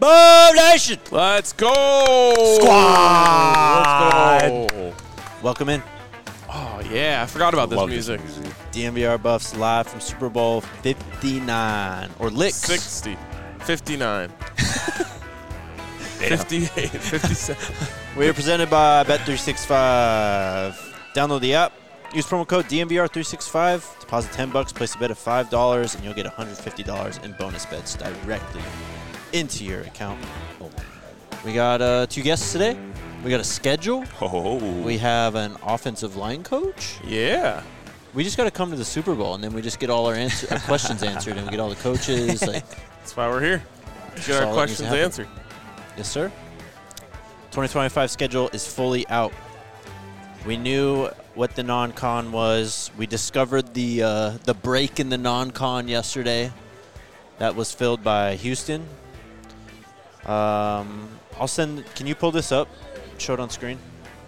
Boom Nation! Let's go! Squad! Let's go! Welcome in. Oh, yeah. I forgot about this music. DNVR Buffs live from Super Bowl 59. Or Licks. 60. 59. 58. 57. We are presented by Bet365. Download the app. Use promo code DNVR365. Deposit $10. Place a bet of $5, and you'll get $150 in bonus bets directly into your account. We got two guests today. We got a schedule. Oh. We have an offensive line coach. Yeah. We just got to come to the Super Bowl, and then we just get all our questions answered, and we get all the coaches. That's why we're here. That's Get our all that needs to questions happen. answered. Yes, sir. 2025 schedule is fully out. We knew what the non-con was. We discovered the break in the non-con yesterday. That was filled by Houston. I'll send. Can you pull this up? Show it on screen.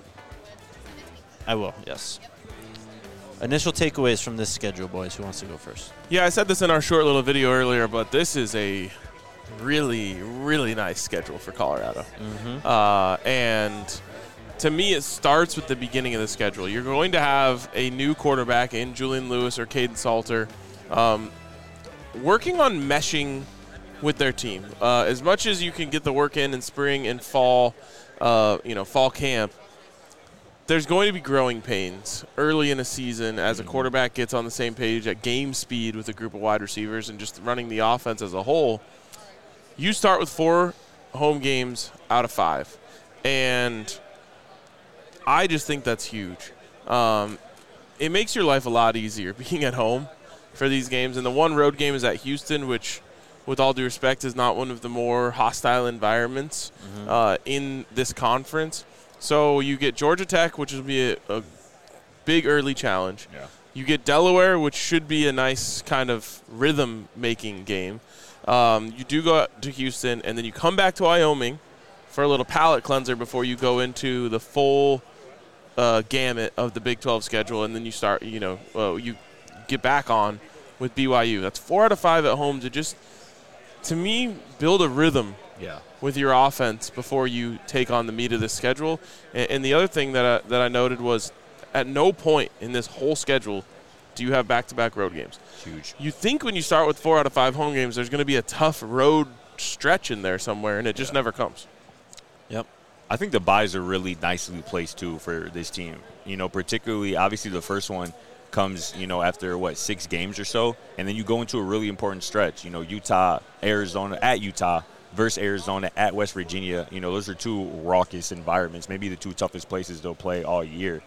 I will. Yes. Initial takeaways from this schedule, boys. Who wants to go first? Yeah, I said this in our short little video earlier, but this is a really, really nice schedule for Colorado. Mm-hmm. And to me, it starts with the beginning of the schedule. You're going to have a new quarterback in Julian Lewis or Caden Salter working on meshing with their team. As much as you can get the work in spring and fall, fall camp, there's going to be growing pains early in a season as a quarterback gets on the same page at game speed with a group of wide receivers and just running the offense as a whole. You start with 4 home games out of 5. And I just think that's huge. It makes your life a lot easier being at home for these games. And the one road game is at Houston, which, with all due respect, is not one of the more hostile environments in this conference. So you get Georgia Tech, which will be a big early challenge. Yeah. You get Delaware, which should be a nice kind of rhythm-making game. You do go to Houston, and then you come back to Wyoming for a little palate cleanser before you go into the full gamut of the Big 12 schedule, and then you start, you get back on with BYU. That's 4 out of 5 at home to just, to me, build a rhythm with your offense before you take on the meat of the schedule. And the other thing that I noted was at no point in this whole schedule do you have back-to-back road games. Huge. You think when you start with 4 out of 5 home games, there's going to be a tough road stretch in there somewhere, and it just never comes. Yep. I think the buys are really nicely placed, too, for this team. Particularly, obviously, the first one comes, after, 6 games or so, and then you go into a really important stretch. Utah, Arizona, at Utah, versus Arizona, at West Virginia. Those are 2 raucous environments, maybe the 2 toughest places they'll play all year.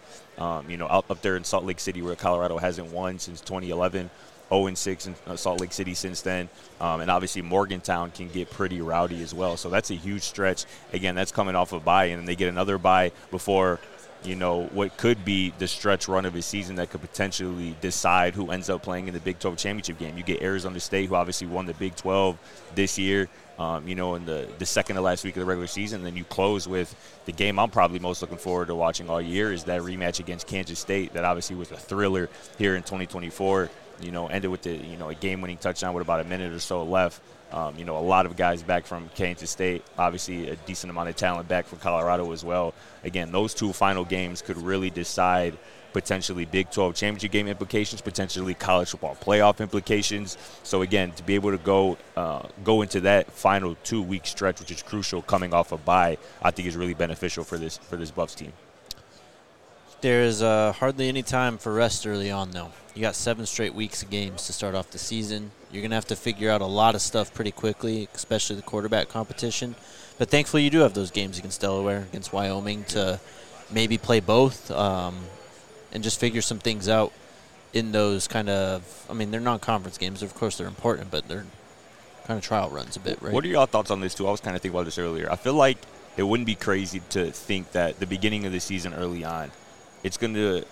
Up there in Salt Lake City where Colorado hasn't won since 2011, 0-6 in Salt Lake City since then. And obviously Morgantown can get pretty rowdy as well. So that's a huge stretch. Again, that's coming off a bye, and then they get another bye before what could be the stretch run of a season that could potentially decide who ends up playing in the Big 12 championship game. You get Arizona State, who obviously won the Big 12 this year, in the second to last week of the regular season. And then you close with the game I'm probably most looking forward to watching all year is that rematch against Kansas State that obviously was a thriller here in 2024. Ended with a game-winning touchdown with about a minute or so left. A lot of guys back from Kansas State, obviously a decent amount of talent back from Colorado as well. Again, those 2 final games could really decide potentially Big 12 championship game implications, potentially college football playoff implications. So, again, to be able to go into that final 2-week stretch, which is crucial coming off a bye, I think is really beneficial for this Buffs team. There's hardly any time for rest early on, though. You got 7 straight weeks of games to start off the season. You're going to have to figure out a lot of stuff pretty quickly, especially the quarterback competition. But thankfully you do have those games against Delaware, against Wyoming, to maybe play both and just figure some things out in those kind of – they're non-conference games. Of course, they're important, but they're kind of trial runs a bit, right? What are your thoughts on this, too? I was kind of thinking about this earlier. I feel like it wouldn't be crazy to think that the beginning of the season early on, it's going to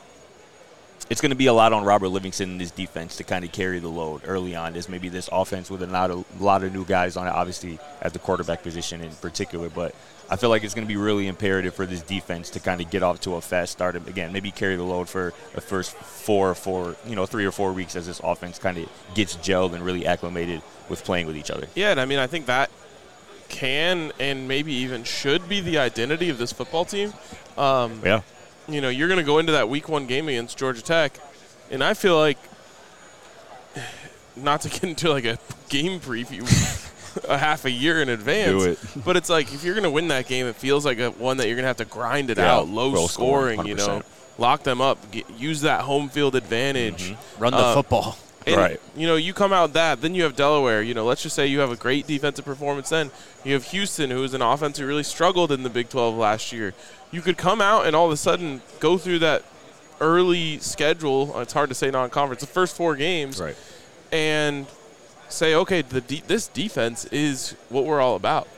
be a lot on Robert Livingston and his defense to kind of carry the load early on. There's maybe this offense with a lot of new guys on it, obviously at the quarterback position in particular. But I feel like it's going to be really imperative for this defense to kind of get off to a fast start. Again, maybe carry the load for the first 3 or 4 weeks as this offense kind of gets gelled and really acclimated with playing with each other. Yeah, and I think that can and maybe even should be the identity of this football team. Yeah. You know, you're going to go into that Week 1 game against Georgia Tech, and I feel like, not to get into like a game preview a half a year in advance, Do it. but it's like if you're going to win that game, it feels like one that you're going to have to grind it Yeah, out, low scoring, 100%. you know, lock them up, use that home field advantage. Run the football. And, Right. you know, you come out that, then you have Delaware. You know, let's just say you have a great defensive performance then. You have Houston, who is an offense who really struggled in the Big 12 last year. You could come out and all of a sudden go through that early schedule. It's hard to say non-conference. The first 4 games. Right. And say, okay, this defense is what we're all about.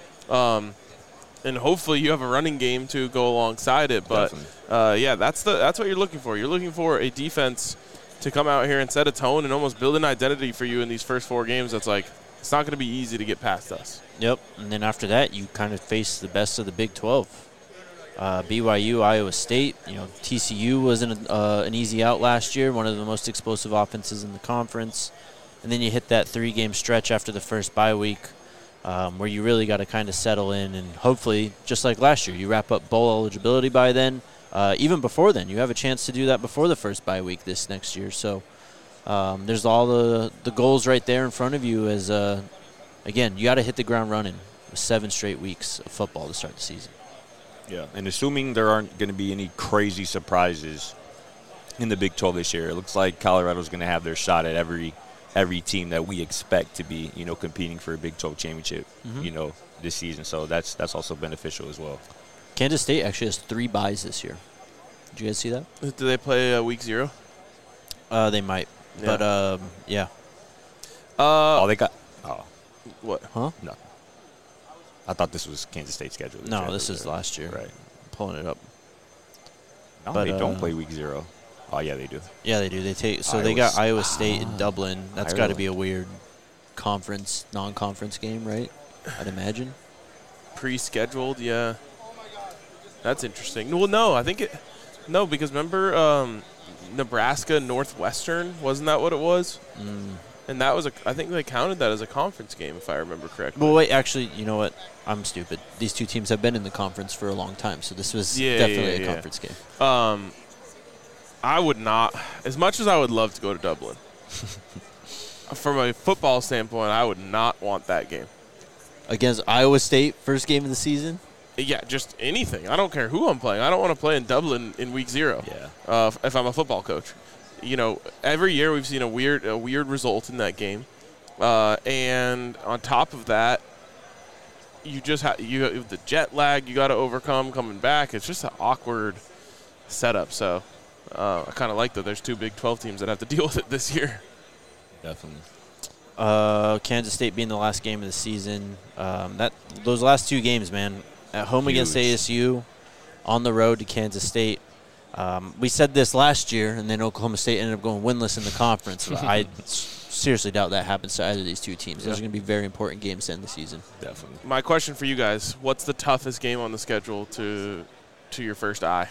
And hopefully you have a running game to go alongside it. But, yeah, that's what you're looking for. You're looking for a defense to come out here and set a tone and almost build an identity for you in these first 4 games. That's like, it's not going to be easy to get past us. Yep, and then after that, you kind of face the best of the Big 12. BYU, Iowa State. You know, TCU wasn't an easy out last year, one of the most explosive offenses in the conference. And then you hit that 3-game stretch after the first bye week where you really got to kind of settle in. And hopefully, just like last year, you wrap up bowl eligibility by then. Even before then, you have a chance to do that before the first bye week this next year. So there's all the goals right there in front of you as, again, you got to hit the ground running with 7 straight weeks of football to start the season. Yeah, and assuming there aren't going to be any crazy surprises in the Big 12 this year, it looks like Colorado's going to have their shot at every team that we expect to be, you know, competing for a Big 12 championship, you know, this season. So that's also beneficial as well. Kansas State actually has 3 byes this year. Did you guys see that? Do they play Week 0? They might, Yeah. but yeah. They got – oh, What? Huh? no. I thought this was Kansas State's schedule. No, this is last year. Right. Pulling it up. No, But, they don't play Week 0. Oh, yeah, they do. Yeah, they do. They Iowa got S- Iowa State in Dublin. That's got to Ireland. be a weird non-conference game, right? I'd imagine. Pre-scheduled, yeah. That's interesting. Well, no, I think no, because remember Nebraska Northwestern, wasn't that what it was? And that was I think they counted that as a conference game, if I remember correctly. Well, wait, actually, you know what? I'm stupid. These 2 teams have been in the conference for a long time, so this was definitely a conference game. I would not, as much as I would love to go to Dublin, from a football standpoint, I would not want that game. Against Iowa State, first game of the season? Yeah, just anything. I don't care who I'm playing. I don't want to play in Dublin in Week 0. Yeah. If I'm a football coach, you know, every year we've seen a weird result in that game, and on top of that, you just have the jet lag you got to overcome coming back. It's just an awkward setup. So I kind of like that there's 2 Big 12 teams that have to deal with it this year. Definitely. Kansas State being the last game of the season. Those last 2 games, man, at home against ASU, on the road to Kansas State. We said this last year, and then Oklahoma State ended up going winless in the conference. I seriously doubt that happens to either of these 2 teams. Those are going to be very important games to end the season. Definitely. My question for you guys: what's the toughest game on the schedule to your first eye?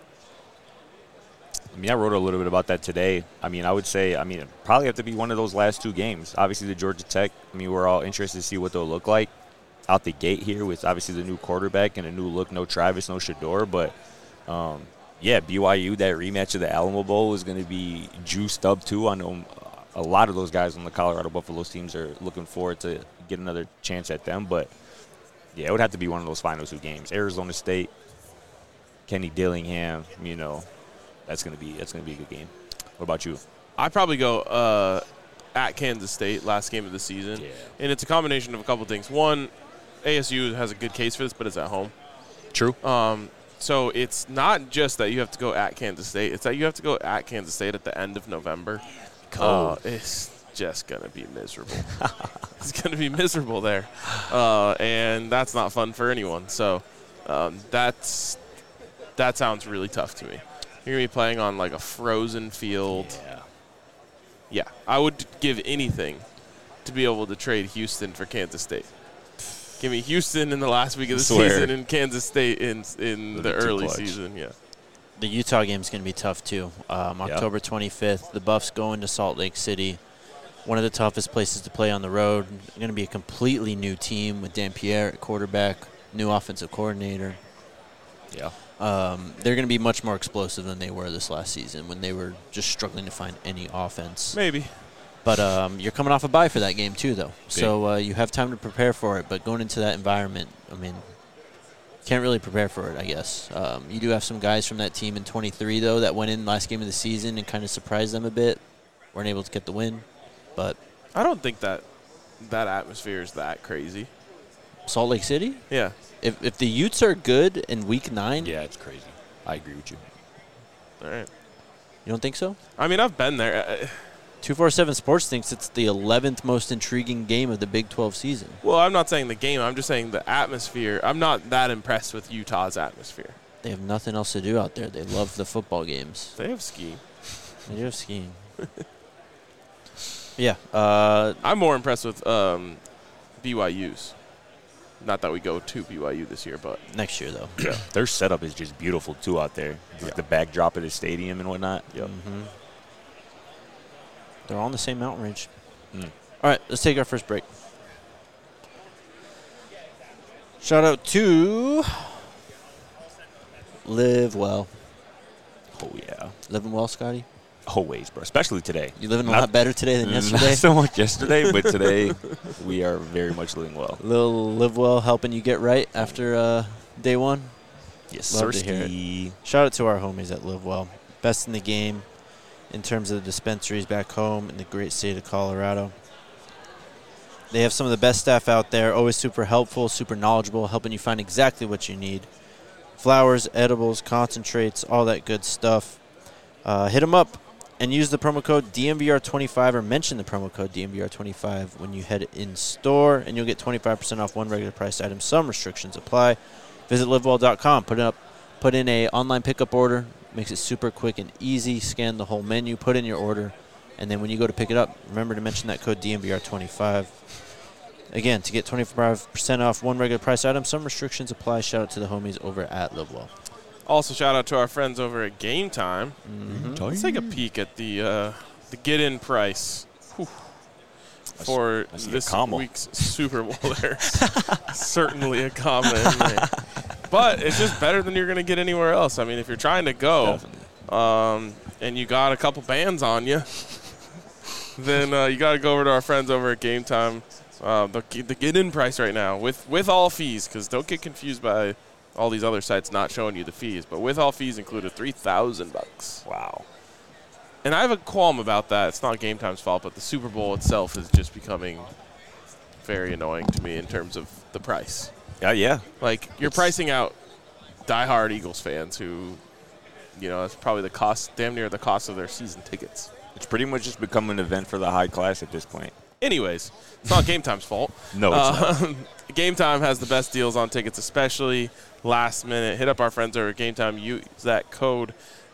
I mean, I wrote a little bit about that today. I mean, I would say, it'd probably have to be one of those last 2 games. Obviously, the Georgia Tech, we're all interested to see what they'll look like out the gate here with obviously the new quarterback and a new look. No Travis, no Shador. But, yeah, BYU, that rematch of the Alamo Bowl is going to be juiced up, too. I know a lot of those guys on the Colorado Buffaloes teams are looking forward to get another chance at them. But, yeah, it would have to be one of those final 2 games. Arizona State, Kenny Dillingham, you know. That's gonna be a good game. What about you? I'd probably go at Kansas State, last game of the season. Yeah. And it's a combination of a couple things. One, ASU has a good case for this, but it's at home. True. So it's not just that you have to go at Kansas State. It's that you have to go at Kansas State at the end of November. It's just going to be miserable. It's going to be miserable there. And that's not fun for anyone. So that sounds really tough to me. You're going to be playing on like a frozen field. Yeah, I would give anything to be able to trade Houston for Kansas State. Give me Houston in the last week of the season and Kansas State in the early season. Yeah. The Utah game is going to be tough, too. October 25th, the Buffs going to Salt Lake City. one of the toughest places to play on the road. Going to be a completely new team with Dan Pierre at quarterback, new offensive coordinator. Yeah. They're going to be much more explosive than they were this last season when they were just struggling to find any offense. Maybe. But you're coming off a bye for that game too, though. So you have time to prepare for it. But going into that environment, I mean, can't really prepare for it, I guess. You do have some guys from that team in 23, though, that went in last game of the season and kind of surprised them a bit. Weren't able to get the win. But I don't think that atmosphere is that crazy. Salt Lake City? Yeah. If the Utes are good in Week 9. Yeah, it's crazy. I agree with you. All right. You don't think so? I mean, I've been there. 247 Sports thinks it's the 11th most intriguing game of the Big 12 season. Well, I'm not saying the game. I'm just saying the atmosphere. I'm not that impressed with Utah's atmosphere. They have nothing else to do out there. They love the football games. They have skiing. They do have skiing. Yeah. I'm more impressed with BYU's. Not that we go to BYU this year, but Next year, though. Yeah. Their setup is just beautiful, too, out there. With the backdrop of the stadium and whatnot. Yep. Mm-hmm. They're all on the same mountain range. Mm. All right, let's take our first break. Shout out to Live Well. Oh, yeah. Living well, Scotty? Always, bro. Especially today. You living a lot better today than yesterday? Not so much yesterday, but today we are very much living well. Little Live Well helping you get right after day one? Yes, Love sir. to hear it. Shout out to our homies at Live Well. Best in the game in terms of the dispensaries back home in the great state of Colorado. They have some of the best staff out there, always super helpful, super knowledgeable, helping you find exactly what you need. Flowers, edibles, concentrates, all that good stuff. Hit them up and use the promo code DMVR25 or mention the promo code DMVR25 when you head in store, and you'll get 25% off one regular price item. Some restrictions apply. Visit livewell.com. Put in a online pickup order. Makes it super quick and easy. Scan the whole menu, put in your order, and then when you go to pick it up, remember to mention that code DMVR25. Again, to get 25% off one regular price item, some restrictions apply. Shout out to the homies over at LiveWell. also shout out to our friends over at Game Time. Mm-hmm. Let's take a peek at the get-in price for this week's Super Bowl. There's certainly a comment in there. But it's just better than you're going to get anywhere else. I mean, if you're trying to go and you got a couple bands on you, then you got to go over to our friends over at Game Time. The get-in price right now with all fees, because don't get confused by all these other sites not showing you the fees. But with all fees included, $3,000. Wow. And I have a qualm about that. It's not Game Time's fault, but the Super Bowl itself is just becoming very annoying to me in terms of the price. Yeah. Like, you're pricing out diehard Eagles fans who, that's probably the cost, damn near the cost of their season tickets. It's pretty much just become an event for the high class at this point. Anyways, it's not Game Time's fault. No, it's not. Game Time has the best deals on tickets, especially last minute. Hit up our friends over at Game Time. Use that code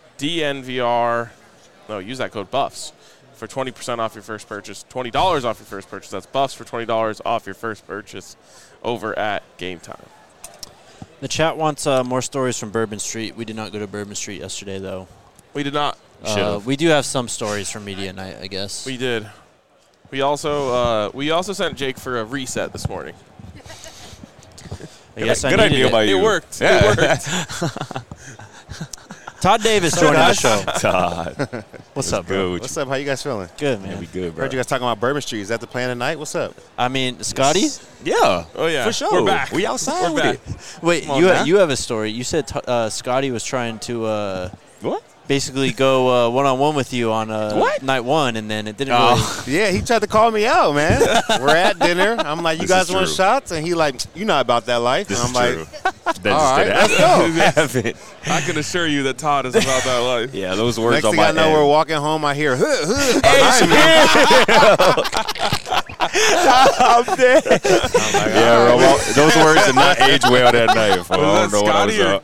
DNVR. No, use that code BUFFS for 20% off your first purchase. $20 off your first purchase. That's BUFFS for $20 off your first purchase over at Game Time. The chat wants more stories from Bourbon Street. We did not go to Bourbon Street yesterday, though. We did not. We do have some stories from Media Night, I guess. We did. We also sent Jake for a reset this morning. I guess Good idea by you. It worked. Yeah. It worked. Todd Davis joining the show. Todd. What's up, bro? What's up? How you guys feeling? Good, man. Yeah, we good, bro. Heard you guys talking about Bourbon Street. Is that the plan tonight? What's up? I mean, Scotty? Yeah. Oh, yeah. For sure. We're back. We outside We're with back. it. Wait, Come on, man. you have a story. You said Scotty was trying to What? basically go one-on-one with you on What? night one, and then it didn't really. Yeah, he tried to call me out, man. We're at dinner. I'm like, you This guys is want true. shots? And he like, you not about that life. This and is I'm true. like, That all just right, didn't let's go. happen. I can assure you that Todd is about that life. Yeah, those words Next on thing my I know, head. we're walking home. I hear, behind me. I'm dead. Yeah, bro. Well, those words did not age well that night. Fool. I don't know what I was Scotty or up.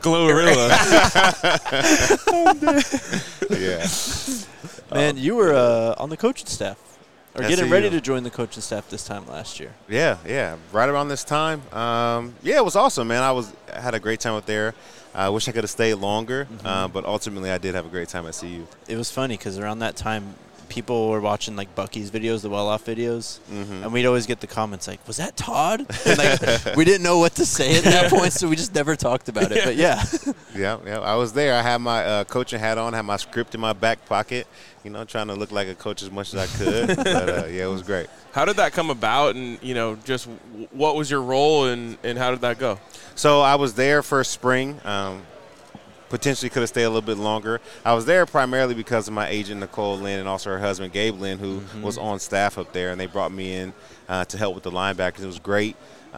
Glorilla? Yeah. Man, you were on the coaching staff, or I getting see ready you. to join the coaching staff this time last year. Yeah. Right around this time. It was awesome, man. I had a great time up there. I wish I could have stayed longer, but ultimately I did have a great time at CU. It was funny because around that time, people were watching like Bucky's videos, the well-off videos, Mm-hmm. and we'd always get the comments like, "Was that Todd?" And like, we didn't know what to say at that point, so we just never talked about it. But yeah, Yeah, I was there. I had my coaching hat on, had my script in my back pocket, trying to look like a coach as much as I could. But, yeah, it was great. How did that come about, and just what was your role, and how did that go? So I was there for spring. Potentially could have stayed a little bit longer. I was there primarily because of my agent, Nicole Lynn, and also her husband, Gabe Lynn, who was on staff up there, and they brought me in to help with the linebackers. It was great.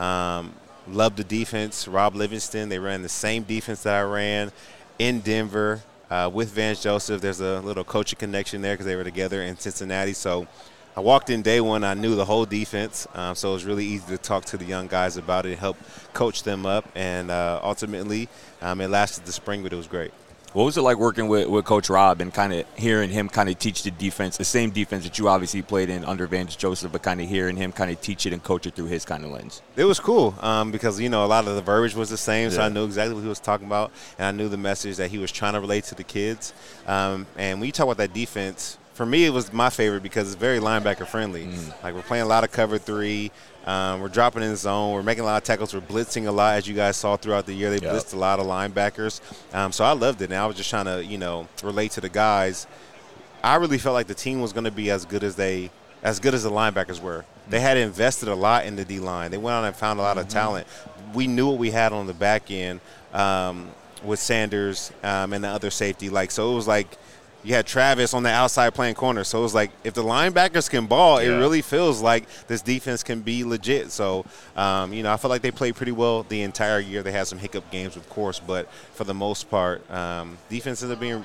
Loved the defense. Rob Livingston, they ran the same defense that I ran in Denver with Vance Joseph. There's a little coaching connection there because they were together in Cincinnati. So I walked in day one. I knew the whole defense, so it was really easy to talk to the young guys about it and help coach them up. And ultimately, it lasted the spring, but it was great. What was it like working with Coach Rob and kind of hearing him kind of teach the defense, the same defense that you obviously played in under Vance Joseph, but kind of hearing him kind of teach it and coach it through his kind of lens? It was cool because, a lot of the verbiage was the same, so I knew exactly what he was talking about, and I knew the message that he was trying to relate to the kids. And when you talk about that defense, for me, it was my favorite because it's very linebacker friendly. Like, we're playing a lot of cover three. We're dropping in the zone. We're making a lot of tackles. We're blitzing a lot, as you guys saw throughout the year. They blitzed a lot of linebackers. So I loved it, and I was just trying to, relate to the guys. I really felt like the team was going to be as good as the linebackers were. They had invested a lot in the D-line. They went out and found a lot of talent. We knew what we had on the back end with Sanders and the other safety. So it was like, you had Travis on the outside playing corner. So it was like, if the linebackers can ball, it really feels like this defense can be legit. So, I feel like they played pretty well the entire year. They had some hiccup games, of course, but for the most part, defense ended up being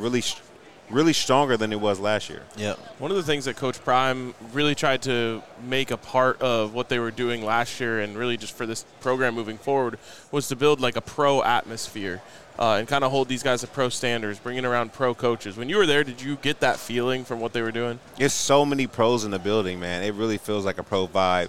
really stronger than it was last year. yeah. One of the things that Coach Prime really tried to make a part of what they were doing last year, and really just for this program moving forward, was to build like a pro atmosphere. And kind of hold these guys to pro standards, bringing around pro coaches. When you were there, did you get that feeling from what they were doing? There's so many pros in the building, man. It really feels like a pro vibe.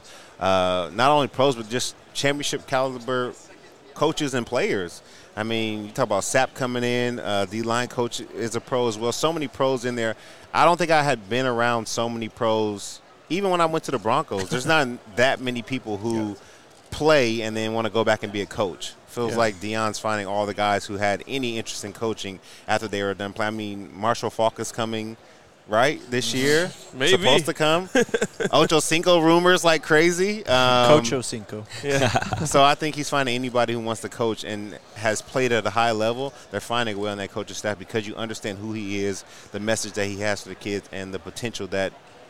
Not only pros, but just championship caliber coaches and players. I mean, you talk about Sapp coming in. The line coach is a pro as well. So many pros in there. I don't think I had been around so many pros. Even when I went to the Broncos, there's not that many people who play and then want to go back and be a coach. Feels like Deion's finding all the guys who had any interest in coaching after they were done playing. I mean, Marshall Faulk is coming, right, this year? Maybe. Supposed to come. Ocho Cinco rumors like crazy. Coach Ocinco. Yeah. So I think he's finding anybody who wants to coach and has played at a high level. They're finding well in that coaching staff because you understand who he is, the message that he has for the kids, and the potential that,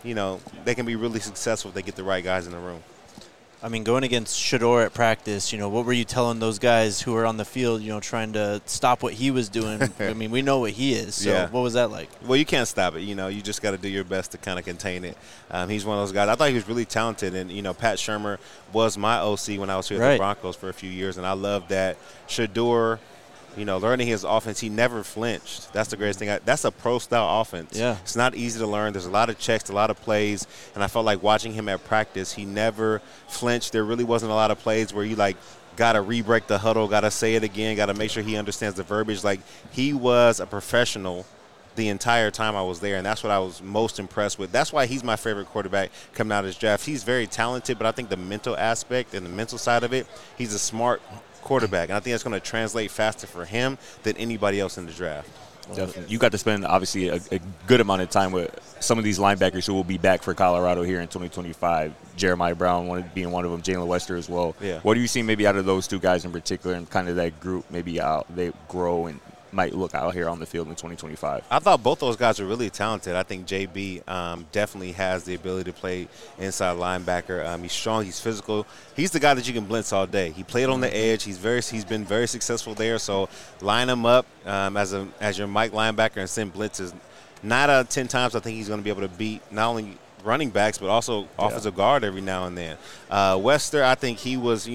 they can be really successful if they get the right guys in the room. I mean, going against Shedeur at practice, what were you telling those guys who were on the field, trying to stop what he was doing? I mean, we know what he is, so what was that like? Well, you can't stop it. You just got to do your best to kind of contain it. He's one of those guys. I thought he was really talented, and, Pat Shurmur was my OC when I was here at the Broncos for a few years, and I loved that. Shedeur, learning his offense, he never flinched. That's the greatest thing. That's a pro-style offense. Yeah. It's not easy to learn. There's a lot of checks, a lot of plays, and I felt like watching him at practice, he never flinched. There really wasn't a lot of plays where you, got to re-break the huddle, got to say it again, got to make sure he understands the verbiage. He was a professional the entire time I was there, and that's what I was most impressed with. That's why he's my favorite quarterback coming out of this draft. He's very talented, but I think the mental aspect and the mental side of it, he's a smart quarterback, and I think that's going to translate faster for him than anybody else in the draft. Definitely. You got to spend, obviously, a good amount of time with some of these linebackers who will be back for Colorado here in 2025. Jeremiah Brown being one of them, Jalen Wester as well. Yeah. What do you see maybe out of those two guys in particular and kind of that group, maybe how they grow and might look out here on the field in 2025? I thought both those guys were really talented. I think JB definitely has the ability to play inside linebacker. He's strong. He's physical. He's the guy that you can blitz all day. He played on the edge. He's been very successful there. So line him up as your Mike linebacker and send blitzes. 9 out of 10 times I think he's going to be able to beat not only running backs but also offensive guard every now and then. Wester, I think he was,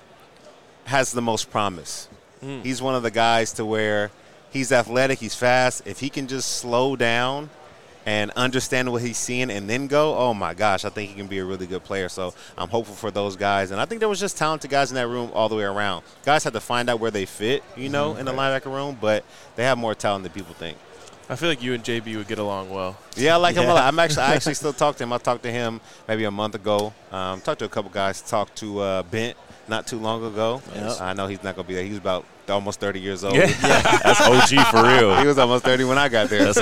has the most promise. He's one of the guys to where he's athletic, he's fast. If he can just slow down and understand what he's seeing and then go, oh, my gosh, I think he can be a really good player. So I'm hopeful for those guys. And I think there was just talented guys in that room all the way around. Guys had to find out where they fit, in the linebacker room, but they have more talent than people think. I feel like you and JB would get along well. Yeah, I like him a lot. I actually still talk to him. I talked to him maybe a month ago. Talked to a couple guys. Talked to Bent not too long ago. Yep. I know he's not going to be there. He was about almost 30 years old. Yeah. That's OG for real. He was almost 30 when I got there.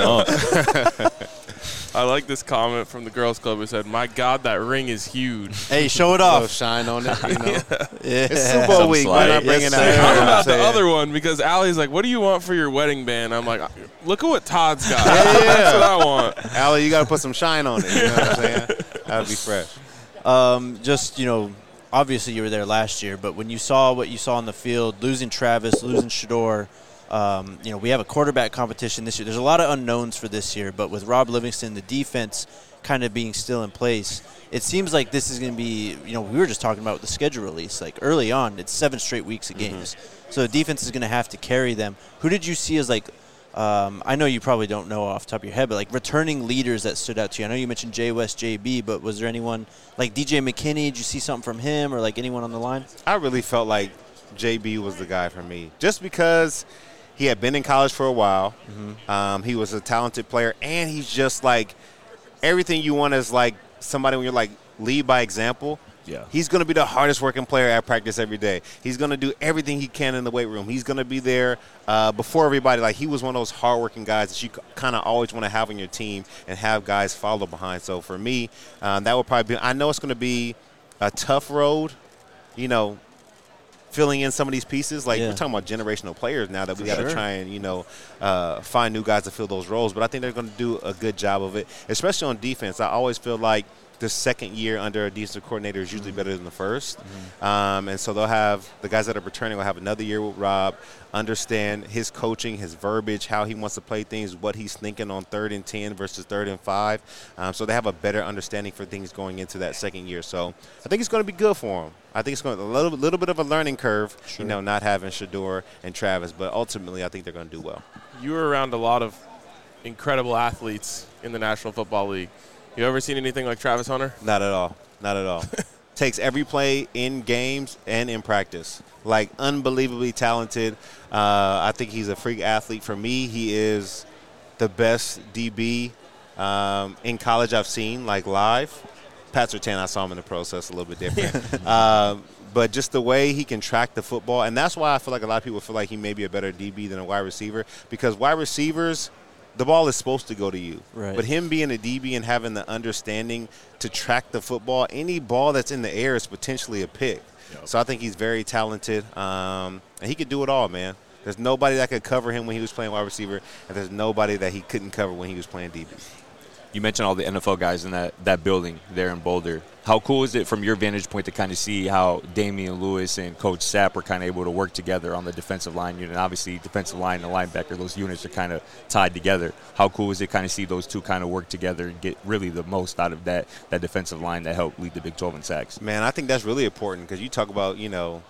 I like this comment from the girls' club. It said, "My God, that ring is huge." Hey, show it A little off. shine on it, you know. Yeah. It's Super Bowl Some week. slide. Why not bring it Yes, out? sir. You know How what I'm about the saying? other one? Because Allie's like, "What do you want for your wedding band?" I'm like, "Look at what Todd's got. Yeah. That's what I want." Allie, you got to put some shine on it. You know what I'm saying? That would be fresh. Just, obviously you were there last year, but when you saw what you saw on the field, losing Travis, losing Shador, we have a quarterback competition this year. There's a lot of unknowns for this year, but with Rob Livingston, the defense kind of being still in place, it seems like this is going to be, we were just talking about the schedule release. Like early on, it's 7 straight weeks of games. So the defense is going to have to carry them. Who did you see as I know you probably don't know off the top of your head, but like returning leaders that stood out to you? I know you mentioned Jay West, JB, but was there anyone like DJ McKinney? Did you see something from him or like anyone on the line? I really felt like JB was the guy for me, just because he had been in college for a while. He was a talented player, and he's just like everything you want is like somebody when you're like lead by example. Yeah. He's going to be the hardest working player at practice every day. He's going to do everything he can in the weight room. He's going to be there before everybody. Like, he was one of those hardworking guys that you kind of always want to have on your team and have guys follow behind. So, for me, that would probably be – I know it's going to be a tough road, filling in some of these pieces. Like, we're talking about generational players now that we got to try and, find new guys to fill those roles. But I think they're going to do a good job of it, especially on defense. I always feel like the second year under a defensive coordinator is usually better than the first. And so they'll have – the guys that are returning will have another year with Rob, understand his coaching, his verbiage, how he wants to play things, what he's thinking on 3rd and 10 versus 3rd and 5. So they have a better understanding for things going into that second year. So I think it's going to be good for him. I think it's going to be a little bit of a learning curve, not having Shador and Travis. But ultimately, I think they're going to do well. You were around a lot of incredible athletes in the National Football League. You ever seen anything like Travis Hunter? Not at all. Not at all. Takes every play in games and in practice. Like, unbelievably talented. I think he's a freak athlete. For me, he is the best DB in college I've seen, like, live. Pat Surtain, I saw him in the process a little bit different. But just the way he can track the football, and that's why I feel like a lot of people feel like he may be a better DB than a wide receiver, because wide receivers – the ball is supposed to go to you. Right. But him being a DB and having the understanding to track the football, any ball that's in the air is potentially a pick. Yep. So I think he's very talented, and he could do it all, man. There's nobody that could cover him when he was playing wide receiver, and there's nobody that he couldn't cover when he was playing DB. You mentioned all the NFL guys in that building there in Boulder. How cool is it from your vantage point to kind of see how Damian Lewis and Coach Sapp are kind of able to work together on the defensive line unit? Obviously, defensive line and linebacker, those units are kind of tied together. How cool is it kind of see those two kind of work together and get really the most out of that defensive line that helped lead the Big 12 in sacks? Man, I think that's really important because you talk about,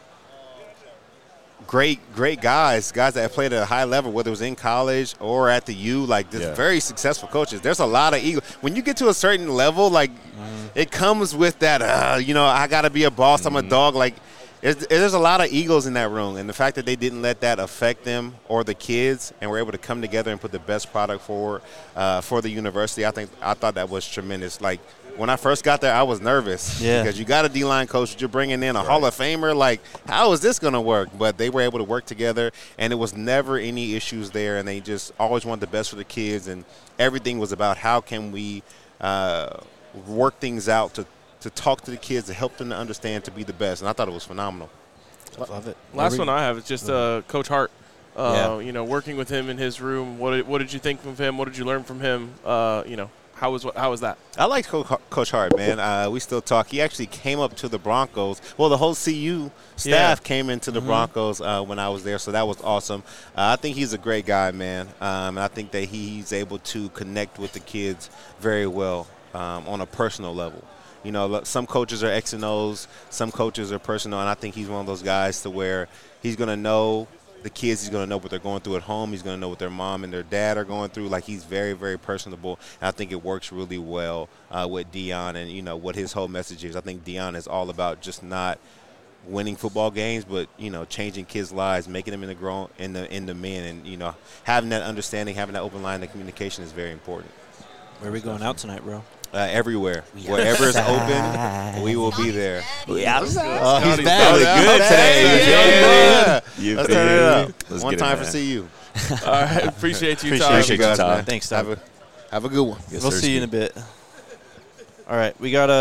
great guys that have played at a high level, whether it was in college or at the U, like there's very successful coaches. There's a lot of ego. When you get to a certain level, like it comes with that, I got to be a boss, I'm a dog. Like there's a lot of egos in that room. And the fact that they didn't let that affect them or the kids and were able to come together and put the best product forward for the university, I thought that was tremendous. Like, when I first got there, I was nervous because you got a D-line coach, you're bringing in a Hall of Famer. Like, how is this going to work? But they were able to work together, and it was never any issues there, and they just always wanted the best for the kids, and everything was about how can we work things out to talk to the kids, to help them to understand, to be the best, and I thought it was phenomenal. Love it. Last one I have is just Coach Hart. Working with him in his room. What did you think of him? What did you learn from him? How was that? I like Coach Hart, man. We still talk. He actually came up to the Broncos. Well, the whole CU staff came into the Broncos when I was there, so that was awesome. I think he's a great guy, man. And I think that he's able to connect with the kids very well on a personal level. Some coaches are X and O's, some coaches are personal, and I think he's one of those guys to where he's going to know the kids, he's going to know what they're going through at home. He's going to know what their mom and their dad are going through. Like, he's very, very personable. And I think it works really well with Deion and, what his whole message is. I think Deion is all about just not winning football games, but changing kids' lives, making them into men, and having that understanding, having that open line of communication is very important. Where are we going out tonight, bro? Everywhere. Wherever is open, we will be there. Oh, he's That back. was good today. Yeah. Let's turn it up. One time for CU. All right, appreciate you, Todd. Appreciate you, guys, Todd. man. Thanks, Todd. Have a good one. Yes, We'll sir, see you in a Ski. bit. All right, we got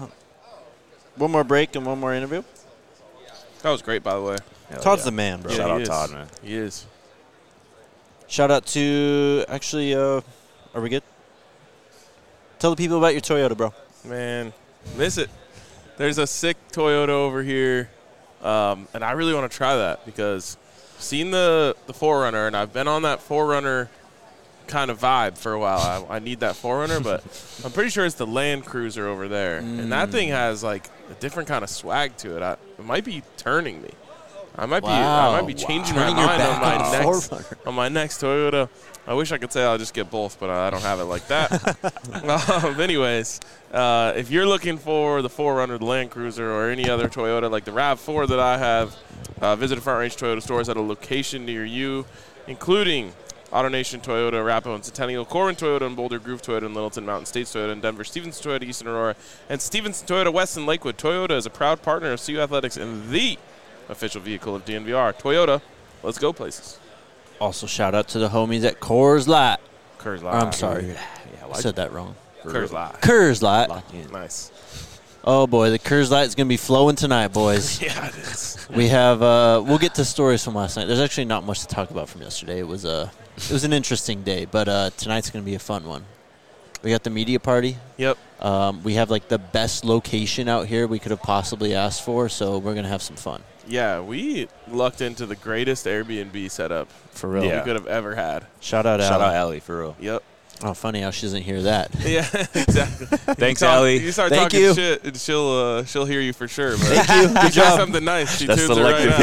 one more break and one more interview. That was great, by the way. Hell Todd's yeah. the man, bro. Shout he out is. Todd, man. He is. Shout out to are we good? Tell the people about your Toyota, bro. Man, miss it. There's a sick Toyota over here, and I really want to try that because I've seen the 4Runner, and I've been on that 4Runner kind of vibe for a while. I need that 4Runner, but I'm pretty sure it's the Land Cruiser over there, and that thing has like a different kind of swag to it. It might be turning me. I might be changing my Turning your mind back on 4Runner. on my next Toyota. I wish I could say I'll just get both, but I don't have it like that. Anyways, if you're looking for the 4Runner, the Land Cruiser, or any other Toyota like the RAV4 that I have, visit Front Range Toyota stores at a location near you, including AutoNation Toyota, Arapahoe and Centennial, Corwin Toyota and Boulder, Groove Toyota and Littleton, Mountain States Toyota and Denver, Stevenson Toyota, Eastern Aurora, and Stevenson Toyota West and Lakewood. Toyota is a proud partner of CU Athletics and the official vehicle of DNVR. Toyota, let's go places. Also, shout out to the homies at Coors Light. Coors I'm sorry. Yeah, I said that wrong. Coors Light. Coors Light. Nice. Oh, boy, the Coors Light is going to be flowing tonight, boys. Yeah, it is. We have we'll get to stories from last night. There's actually not much to talk about from yesterday. It was an interesting day, but tonight's going to be a fun one. We got the media party. Yep. We have like the best location out here we could have possibly asked for, so we're going to have some fun. Yeah, we lucked into the greatest Airbnb setup For real. we could have ever had. Shout out Shout Allie. out Allie, for real. Yep. Oh, funny how she doesn't hear that. Yeah, exactly. Thanks, You Allie. You start Thank talking you. shit, and she'll hear you for sure. But Thank you. you Good say job. something nice. She That's tunes it right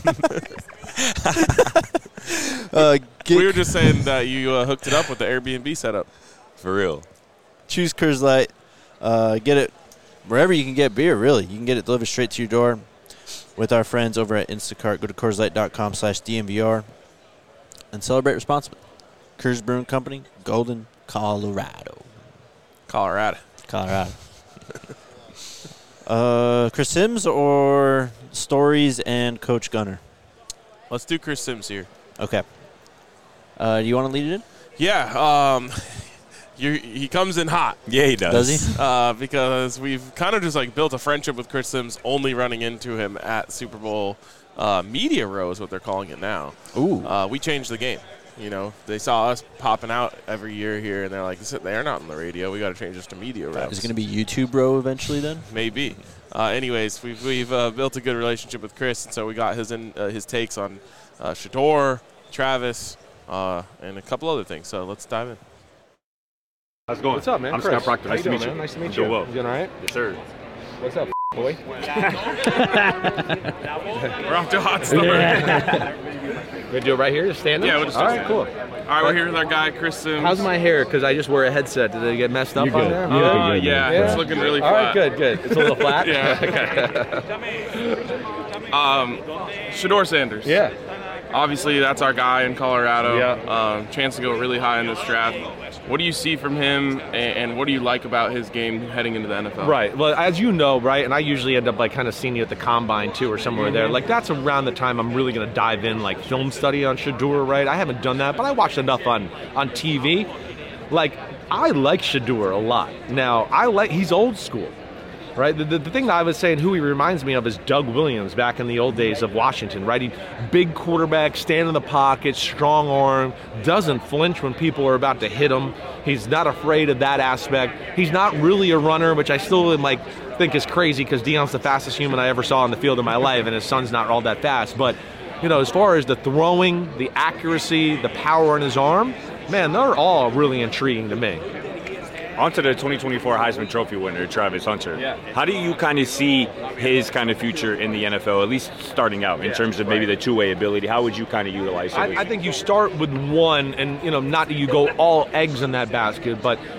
selective out. hearing. We were just saying that you hooked it up with the Airbnb setup. For real. Choose Coors Light. Get it wherever you can get beer, really. You can get it delivered straight to your door with our friends over at Instacart. Go to CoorsLight.com/DNVR and celebrate responsibly. Coors Brewing Company, Golden, Colorado. Colorado. Chris Sims or Stories and Coach Gunner? Let's do Chris Sims here. Okay. Do you want to lead it in? Yeah. He comes in hot. Yeah, he does. Does he? Because we've kind of just like built a friendship with Chris Sims, only running into him at Super Bowl Media Row is what they're calling it now. Ooh. We changed the game. You know, they saw us popping out every year here, and they're like, they're not on the radio. We got to change this to Media Row. Is it going to be YouTube Row eventually then? Maybe. Anyways, we've built a good relationship with Chris, and so we got his takes on Shedeur, Travis, and a couple other things. So let's dive in. How's it going? What's up, man? I'm Chris. Scott Proctor. How Nice you to doing, meet you. man? Nice to meet I'm you. doing well. You doing all right? Yes, sir. What's up, boy? We're off to a hot start. We do it right here, just stand up? Yeah, we'll just all stand right, cool. All right, we're here with our guy, Chris Sims. How's my hair? Because I just wear a headset. Did it get messed up You're on good. there? Yeah. Yeah, it's looking really All flat. right, good. It's a little flat? Shedeur Sanders. Yeah. Obviously, that's our guy in Colorado. Yeah. Chance to go really high in this draft. What do you see from him, and what do you like about his game heading into the NFL? Right. Well, as you know, right, and I usually end up like kind of seeing you at the Combine too or somewhere there. Like that's around the time I'm really going to dive in like film study on Shedeur, right? I haven't done that, but I watched enough on TV. Like I like Shedeur a lot. Now, he's old school. Right, the thing that I was saying, who he reminds me of is Doug Williams back in the old days of Washington, right? He big quarterback, stand in the pocket, strong arm, doesn't flinch when people are about to hit him. He's not afraid of that aspect. He's not really a runner, which I still am think is crazy because Deion's the fastest human I ever saw on the field in my life, and his son's not all that fast. But you know, as far as the throwing, the accuracy, the power in his arm, man, they're all really intriguing to me. On to the 2024 Heisman Trophy winner, Travis Hunter. Yeah. How do you kind of see his kind of future in the NFL, at least starting out, in terms of maybe the two-way ability? How would you kind of utilize it? I think you start with one, and you know, not that you go all eggs in that basket, but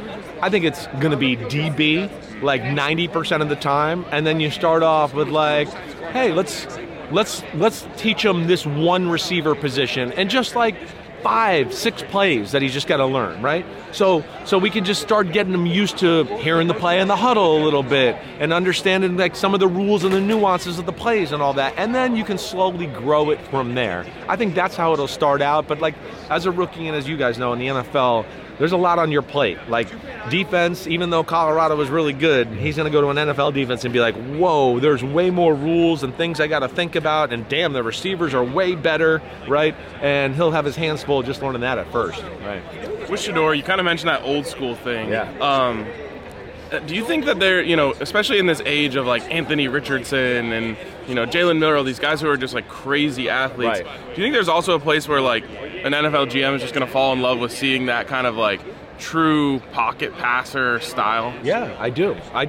I think it's going to be DB like 90% of the time, and then you start off with like, hey, let's teach him this one receiver position, and just like 5-6 plays that he's just got to learn, right? So we can just start getting him used to hearing the play in the huddle a little bit and understanding like some of the rules and the nuances of the plays and all that, and then you can slowly grow it from there. I think that's how it'll start out, but like as a rookie and as you guys know in the NFL, there's a lot on your plate. Like defense, even though Colorado was really good, he's going to go to an NFL defense and be like, whoa, there's way more rules and things I got to think about, and damn, the receivers are way better, right? And he'll have his hands full just learning that at first. Right. With Shedeur, you kind of mentioned that old school thing. Yeah. Do you think that they're, especially in this age of like Anthony Richardson and, Jalen Miller, all these guys who are just like crazy athletes, right. Do you think there's also a place where like an NFL GM is just going to fall in love with seeing that kind of like true pocket passer style? Yeah, I do. I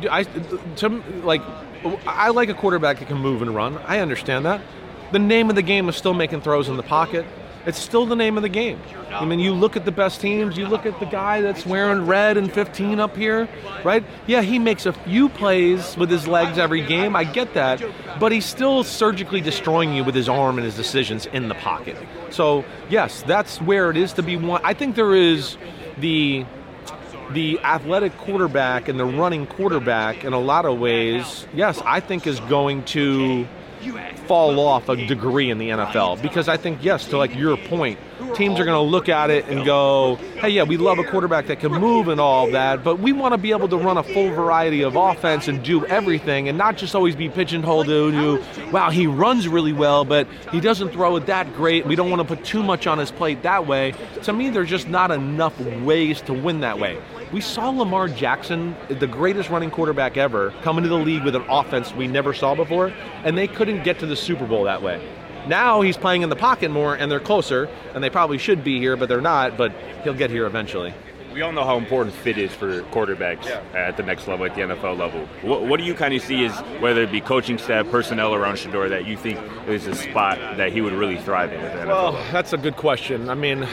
like a quarterback that can move and run. I understand that. The name of the game is still making throws in the pocket. It's still the name of the game. I mean, you look at the best teams, you look at the guy that's wearing red and 15 up here, right? Yeah, he makes a few plays with his legs every game, I get that, but he's still surgically destroying you with his arm and his decisions in the pocket. So, yes, that's where it is to be one. I think there is the athletic quarterback and the running quarterback in a lot of ways, yes, I think is going to fall off a degree in the NFL, because I think, yes, to like your point, teams are going to look at it and go, hey, yeah, we love a quarterback that can move and all that, but we want to be able to run a full variety of offense and do everything and not just always be pigeonholed to, wow, he runs really well, but he doesn't throw it that great. We don't want to put too much on his plate that way. To me, there's just not enough ways to win that way. We saw Lamar Jackson, the greatest running quarterback ever, come into the league with an offense we never saw before, and they couldn't get to the Super Bowl that way. Now he's playing in the pocket more, and they're closer, and they probably should be here, but they're not, but he'll get here eventually. We all know how important fit is for quarterbacks at the next level, at the NFL level. What do you kind of see as, whether it be coaching staff, personnel around Shedeur, that you think is a spot that he would really thrive in at the NFL? Well, that's a good question. I mean,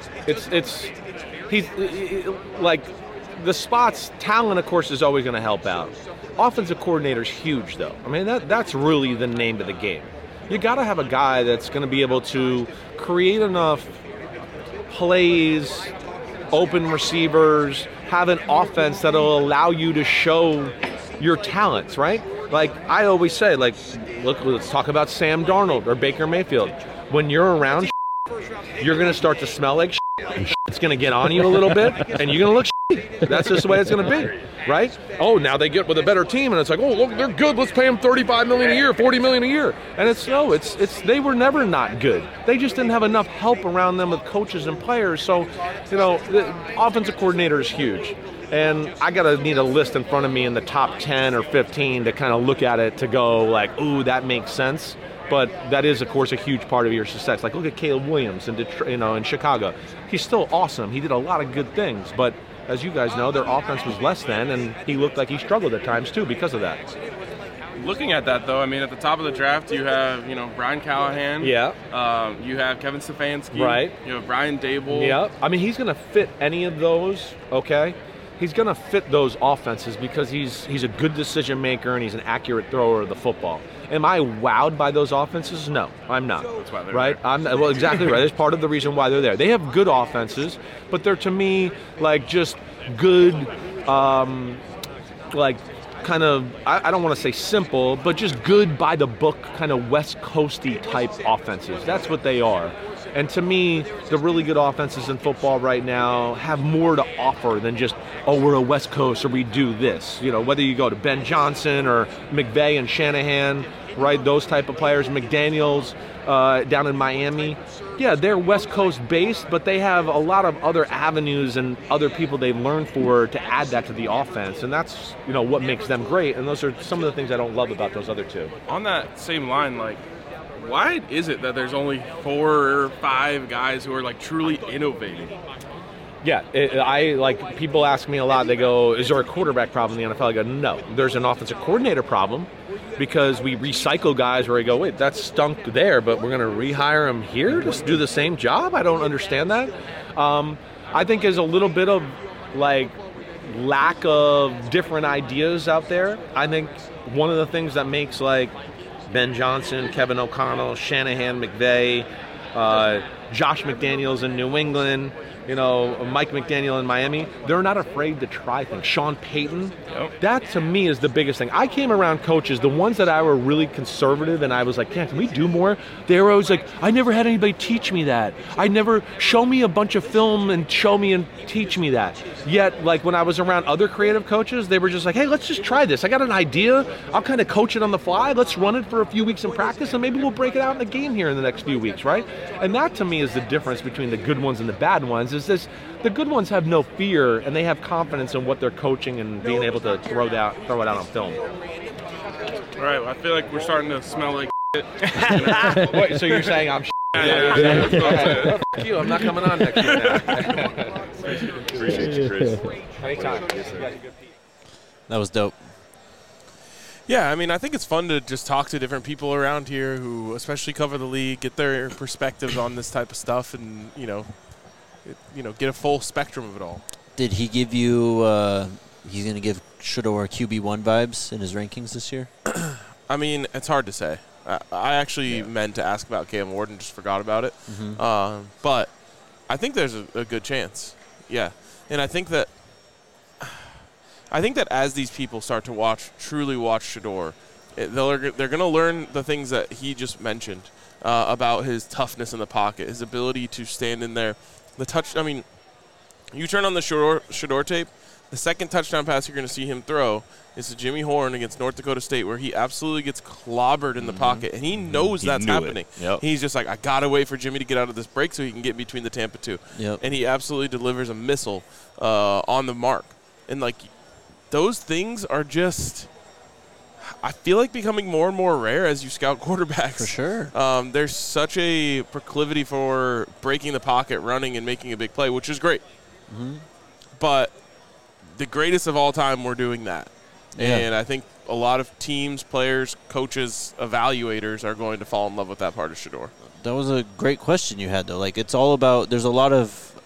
he's like, the spots, talent, of course, is always going to help out. Offensive coordinator's huge, though. I mean, that's really the name of the game. You got to have a guy that's going to be able to create enough plays, open receivers, have an offense that'll allow you to show your talents, right? Like I always say, like, look, let's talk about Sam Darnold or Baker Mayfield. When you're around, you're going to start to smell like and it's going to get on you a little bit, and you're going to look shitty. That's just the way it's going to be, right? Oh, now they get with a better team, and it's like, oh, look, they're good. Let's pay them $35 million a year, $40 million a year. And it's they were never not good. They just didn't have enough help around them with coaches and players. So, the offensive coordinator is huge. And I need a list in front of me in the top 10 or 15 to kind of look at it to go like, ooh, that makes sense. But that is, of course, a huge part of your success. Like, look at Caleb Williams in Detroit, in Chicago. He's still awesome. He did a lot of good things. But as you guys know, their offense was less than, and he looked like he struggled at times, too, because of that. Looking at that, though, I mean, at the top of the draft, you have, Brian Callahan. Yeah. You have Kevin Stefanski. Right. You have Brian Dable. Yeah. I mean, he's going to fit any of those, okay? He's going to fit those offenses because he's a good decision maker and he's an accurate thrower of the football. Am I wowed by those offenses? No, I'm not. That's why they're right? there. Well, exactly right. That's part of the reason why they're there. They have good offenses, but they're, to me, like just good, like kind of, I don't want to say simple, but just good by the book kind of West Coasty type offenses. That's what they are. And to me, the really good offenses in football right now have more to offer than just, oh, we're a West Coast or we do this. Whether you go to Ben Johnson or McVay and Shanahan, right, those type of players, McDaniels down in Miami. Yeah, they're West Coast based, but they have a lot of other avenues and other people they've learned to add that to the offense. And that's, what makes them great. And those are some of the things I don't love about those other two. On that same line, like, why is it that there's only 4 or 5 guys who are like truly innovating? Yeah, people ask me a lot. They go, "Is there a quarterback problem in the NFL?" I go, "No, there's an offensive coordinator problem because we recycle guys where we go, wait, that stunk there, but we're going to rehire him here to do the same job." I don't understand that. I think there's a little bit of like lack of different ideas out there. I think one of the things that makes like Ben Johnson, Kevin O'Connell, Shanahan, McVay, Josh McDaniels in New England, Mike McDaniel in Miami, they're not afraid to try things. Sean Payton, that to me is the biggest thing. I came around coaches, the ones that I were really conservative and I was like, can we do more? They were always like, I never had anybody teach me that. I never, show me a bunch of film and show me and teach me that. Yet, like when I was around other creative coaches, they were just like, hey, let's just try this. I got an idea. I'll kind of coach it on the fly. Let's run it for a few weeks in practice and maybe we'll break it out in a game here in the next few weeks, right? And that to me is the difference between the good ones and the bad ones. Is this, the good ones have no fear and they have confidence in what they're coaching and being able to throw it out on film. All right, well, I feel like we're starting to smell like shit. Wait, so you're saying I'm Yeah. Fuck you, I'm not coming on next year now. Appreciate you, Chris. Anytime. That was dope. Yeah, I mean, I think it's fun to just talk to different people around here who especially cover the league, get their perspectives on this type of stuff, and get a full spectrum of it all. Did he give you? He's going to give Shedeur QB1 vibes in his rankings this year. I mean, it's hard to say. I actually meant to ask about Cam Ward and just forgot about it. Mm-hmm. But I think there's a good chance. Yeah, and I think that as these people start to truly watch Shedeur, they're going to learn the things that he just mentioned about his toughness in the pocket, his ability to stand in there. The touch. I mean, you turn on the Shedeur tape. The second touchdown pass you're going to see him throw is to Jimmy Horn against North Dakota State, where he absolutely gets clobbered in the pocket, and he knows that's happening. Yep. He's just like, I got to wait for Jimmy to get out of this break so he can get between the Tampa two. Yep. And he absolutely delivers a missile on the mark. And, like, those things are just, I feel like, becoming more and more rare as you scout quarterbacks. For sure. There's such a proclivity for breaking the pocket, running, and making a big play, which is great. Mm-hmm. But the greatest of all time were doing that. Yeah. And I think a lot of teams, players, coaches, evaluators are going to fall in love with that part of Shedeur. That was a great question you had, though. Like, it's all about – there's a lot of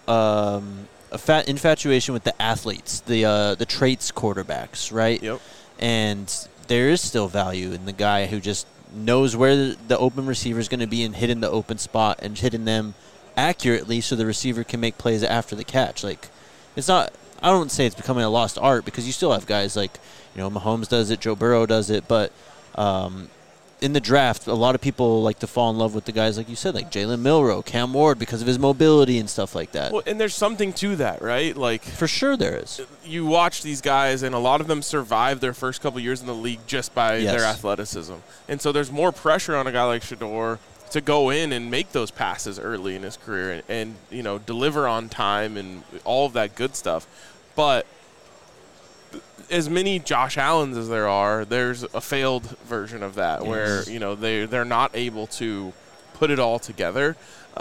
infatuation with the athletes, the traits quarterbacks, right? Yep. And there is still value in the guy who just knows where the open receiver is going to be and hitting the open spot and hitting them accurately so the receiver can make plays after the catch. Like, it's not – I don't say it's becoming a lost art because you still have guys like, Mahomes does it, Joe Burrow does it, but in the draft, a lot of people like to fall in love with the guys like you said, like Jalen Milroe, Cam Ward, because of his mobility and stuff like that. Well, and there's something to that, right? Like, for sure there is. You watch these guys, and a lot of them survive their first couple years in the league just by their athleticism. And so there's more pressure on a guy like Shedeur to go in and make those passes early in his career and deliver on time and all of that good stuff. But as many Josh Allens as there are, there's a failed version of that where, they're not able to put it all together.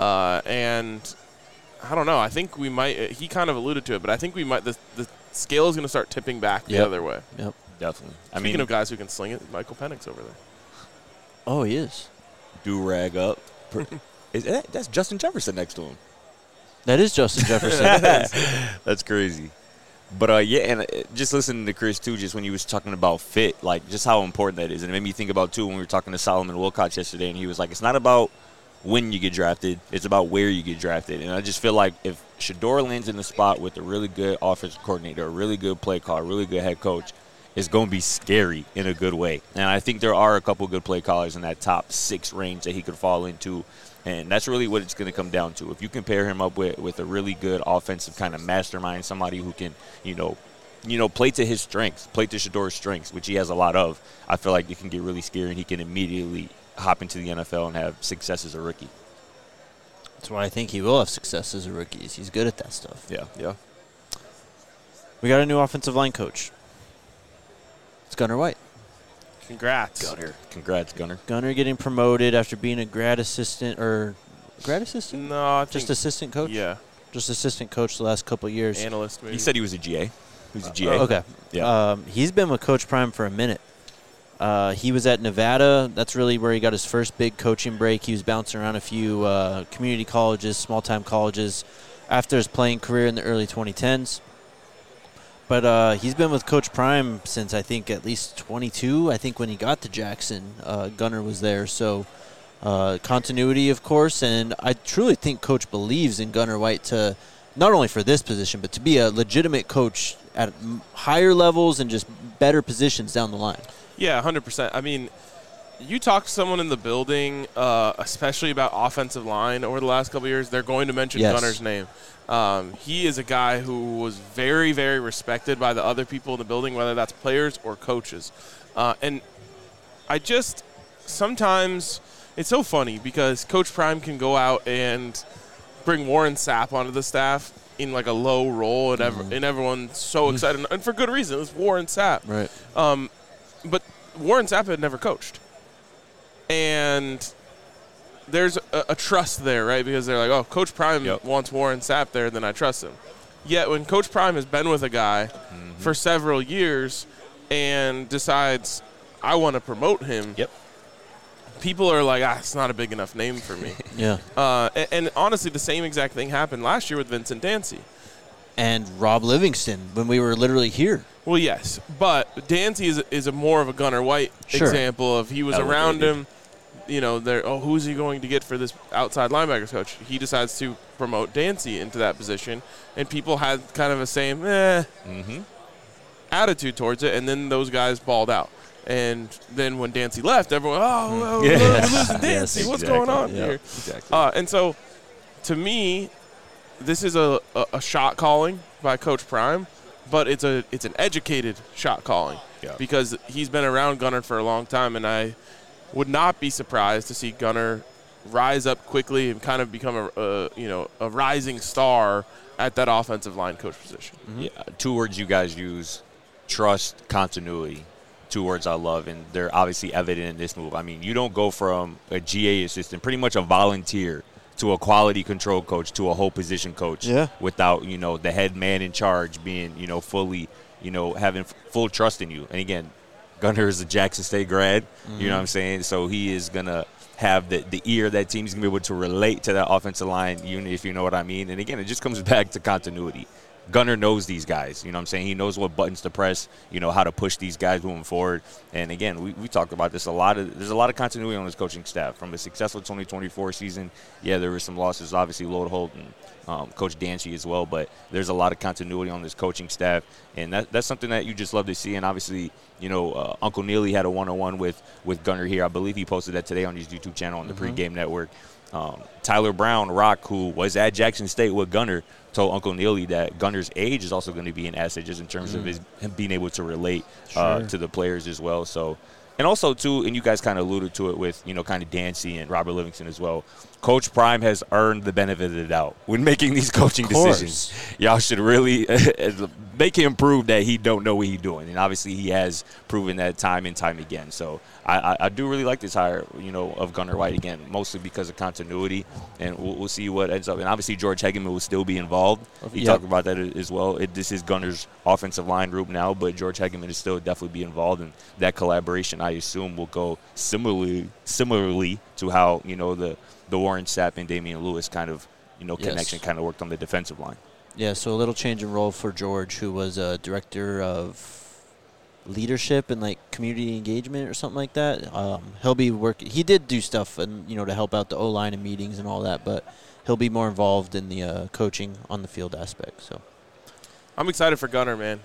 And I don't know. I think we might – he kind of alluded to it, but I think we might – the scale is going to start tipping back the other way. Yep. Definitely. Speaking of guys who can sling it, Michael Penix over there. Oh, he is. Do-rag up. That's Justin Jefferson next to him. That is Justin Jefferson. That's crazy. But, and just listening to Chris, too, just when he was talking about fit, like, just how important that is. And it made me think about, too, when we were talking to Solomon Wilcox yesterday, and he was like, it's not about when you get drafted, it's about where you get drafted. And I just feel like if Shedeur lands in the spot with a really good offensive coordinator, a really good play call, a really good head coach, it's going to be scary in a good way. And I think there are a couple good play callers in that top 6 range that he could fall into. And that's really what it's going to come down to. If you can pair him up with a really good offensive kind of mastermind, somebody who can, play to his strengths, play to Shedeur's strengths, which he has a lot of, I feel like it can get really scary and he can immediately hop into the NFL and have success as a rookie. That's why I think he will have success as a rookie. He's good at that stuff. Yeah. We got a new offensive line coach. It's Gunnar White. Congrats. Congrats, Gunnar. Gunnar getting promoted after being a grad assistant or grad assistant? No, I think just assistant coach? Yeah. Just assistant coach the last couple of years. Analyst, maybe. He said he was a GA. He was a GA. Okay. Yeah. He's been with Coach Prime for a minute. He was at Nevada. That's really where he got his first big coaching break. He was bouncing around a few community colleges, small-time colleges after his playing career in the early 2010s. But he's been with Coach Prime since, I think, at least 22. I think when he got to Jackson, Gunnar was there. So continuity, of course. And I truly think Coach believes in Gunnar White to not only for this position, but to be a legitimate coach at higher levels and just better positions down the line. Yeah, 100%. I mean, you talk to someone in the building, especially about offensive line over the last couple of years, they're going to mention Gunnar's name. He is a guy who was very, very respected by the other people in the building, whether that's players or coaches. And I just sometimes it's so funny because Coach Prime can go out and bring Warren Sapp onto the staff in like a low role, and everyone's so excited, and for good reason. It's Warren Sapp. Right. But Warren Sapp had never coached. And there's a trust there, right? Because they're like, oh, Coach Prime wants Warren Sapp there, then I trust him. Yet when Coach Prime has been with a guy for several years and decides, I want to promote him, people are like, it's not a big enough name for me. And honestly, the same exact thing happened last year with Vincent Dancy. And Rob Livingston, when we were literally here. Well, yes, but Dancy is a more of a Gunnar White example of he was around him. You know, who's he going to get for this outside linebackers coach? He decides to promote Dancy into that position, and people had kind of a same attitude towards it, and then those guys balled out. And then when Dancy left, everyone, we're losing Dancy. What's going on here? Exactly. And so, to me, this is a shot calling by Coach Prime, but it's an educated shot calling because he's been around Gunnar for a long time, and I would not be surprised to see Gunnar rise up quickly and kind of become a rising star at that offensive line coach position. Yeah, 2 words you guys use: trust, continuity. 2 words I love, and they're obviously evident in this move. I mean, you don't go from a GA assistant, pretty much a volunteer, to a quality control coach, to a whole position coach without, the head man in charge being, fully, having full trust in you. And again, Gunnar is a Jackson State grad, you know what I'm saying? So he is going to have the ear of that team. He's going to be able to relate to that offensive line unit, if you know what I mean. And again, it just comes back to continuity. Gunnar knows these guys, you know what I'm saying? He knows what buttons to press, how to push these guys moving forward. And again, we talked about this there's a lot of continuity on this coaching staff. From a successful 2024 season, there were some losses, obviously Lodeholt and Coach Dancy as well, but there's a lot of continuity on this coaching staff, and that's something that you just love to see. And obviously, Uncle Neely had a one-on-one with Gunnar here. I believe he posted that today on his YouTube channel on the Pregame Network. Tyler Brown, Rock, who was at Jackson State with Gunnar, told Uncle Neely that Gunnar's age is also going to be an asset just in terms of him being able to relate to the players as well. So, and also, too, and you guys kind of alluded to it with, kind of Dancy and Robert Livingston as well, Coach Prime has earned the benefit of the doubt when making these coaching decisions. Y'all should really make him prove that he don't know what he's doing. And obviously he has proven that time and time again. So I do really like this hire, of Gunnar White, again, mostly because of continuity. And we'll see what ends up. And obviously George Hegeman will still be involved. He talked about that as well. This is Gunnar's offensive line group now, but George Hegeman is still definitely be involved. And that collaboration, I assume, will go similarly to how, the Warren Sapp and Damian Lewis kind of, connection kind of worked on the defensive line. Yeah, so a little change in role for George, who was a director of leadership and community engagement or something like that. He'll be working. He did do stuff and to help out the O-line and meetings and all that, but he'll be more involved in the coaching on the field aspect. So I'm excited for Gunnar, man.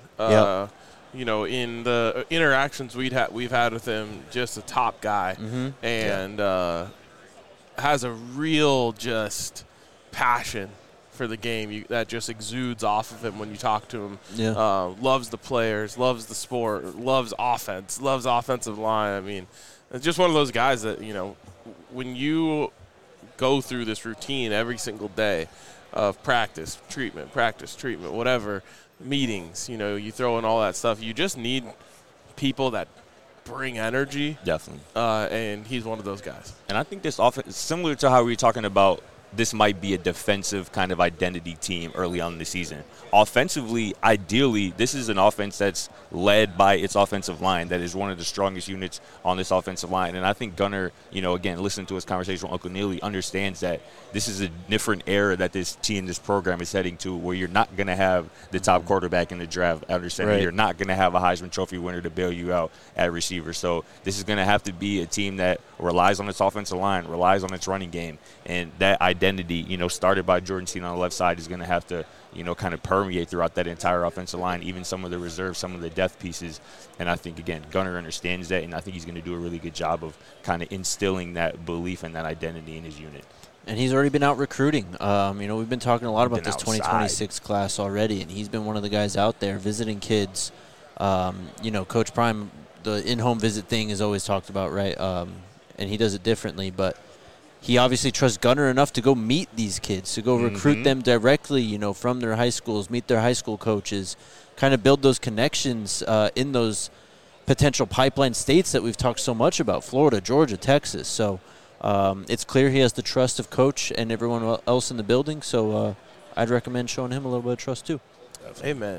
In the interactions we've had with him, just a top guy, and has a real just passion for the game that just exudes off of him when you talk to him. Loves the players, loves the sport, loves offense, loves offensive line. I mean, it's just one of those guys that, when you go through this routine every single day of practice, treatment, whatever, meetings, you throw in all that stuff, you just need people that bring energy. Definitely. And he's one of those guys. And I think this offense is similar to how we were talking about this might be a defensive kind of identity team early on in the season. Offensively, ideally, this is an offense that's led by its offensive line that is one of the strongest units on this offensive line. And I think Gunnar, again, listening to his conversation with Uncle Neely, understands that this is a different era that this team, this program is heading to, where you're not going to have the top quarterback in the draft at center. You're not going to have a Heisman Trophy winner to bail you out at receiver. So this is going to have to be a team that relies on its offensive line, relies on its running game. And that identity, started by Jordan Seed on the left side, is going to have to, kind of permeate throughout that entire offensive line, even some of the reserves, some of the depth pieces. And I think, again, Gunnar understands that, and I think he's going to do a really good job of kind of instilling that belief and that identity in his unit. And he's already been out recruiting. We've been talking a lot about this 2026 class already, and he's been one of the guys out there visiting kids. Coach Prime, the in-home visit thing is always talked about, right? And he does it differently, but he obviously trusts Gunnar enough to go meet these kids, to go recruit them directly, from their high schools, meet their high school coaches, kind of build those connections in those potential pipeline states that we've talked so much about, Florida, Georgia, Texas. So it's clear he has the trust of Coach and everyone else in the building. So I'd recommend showing him a little bit of trust too. Amen.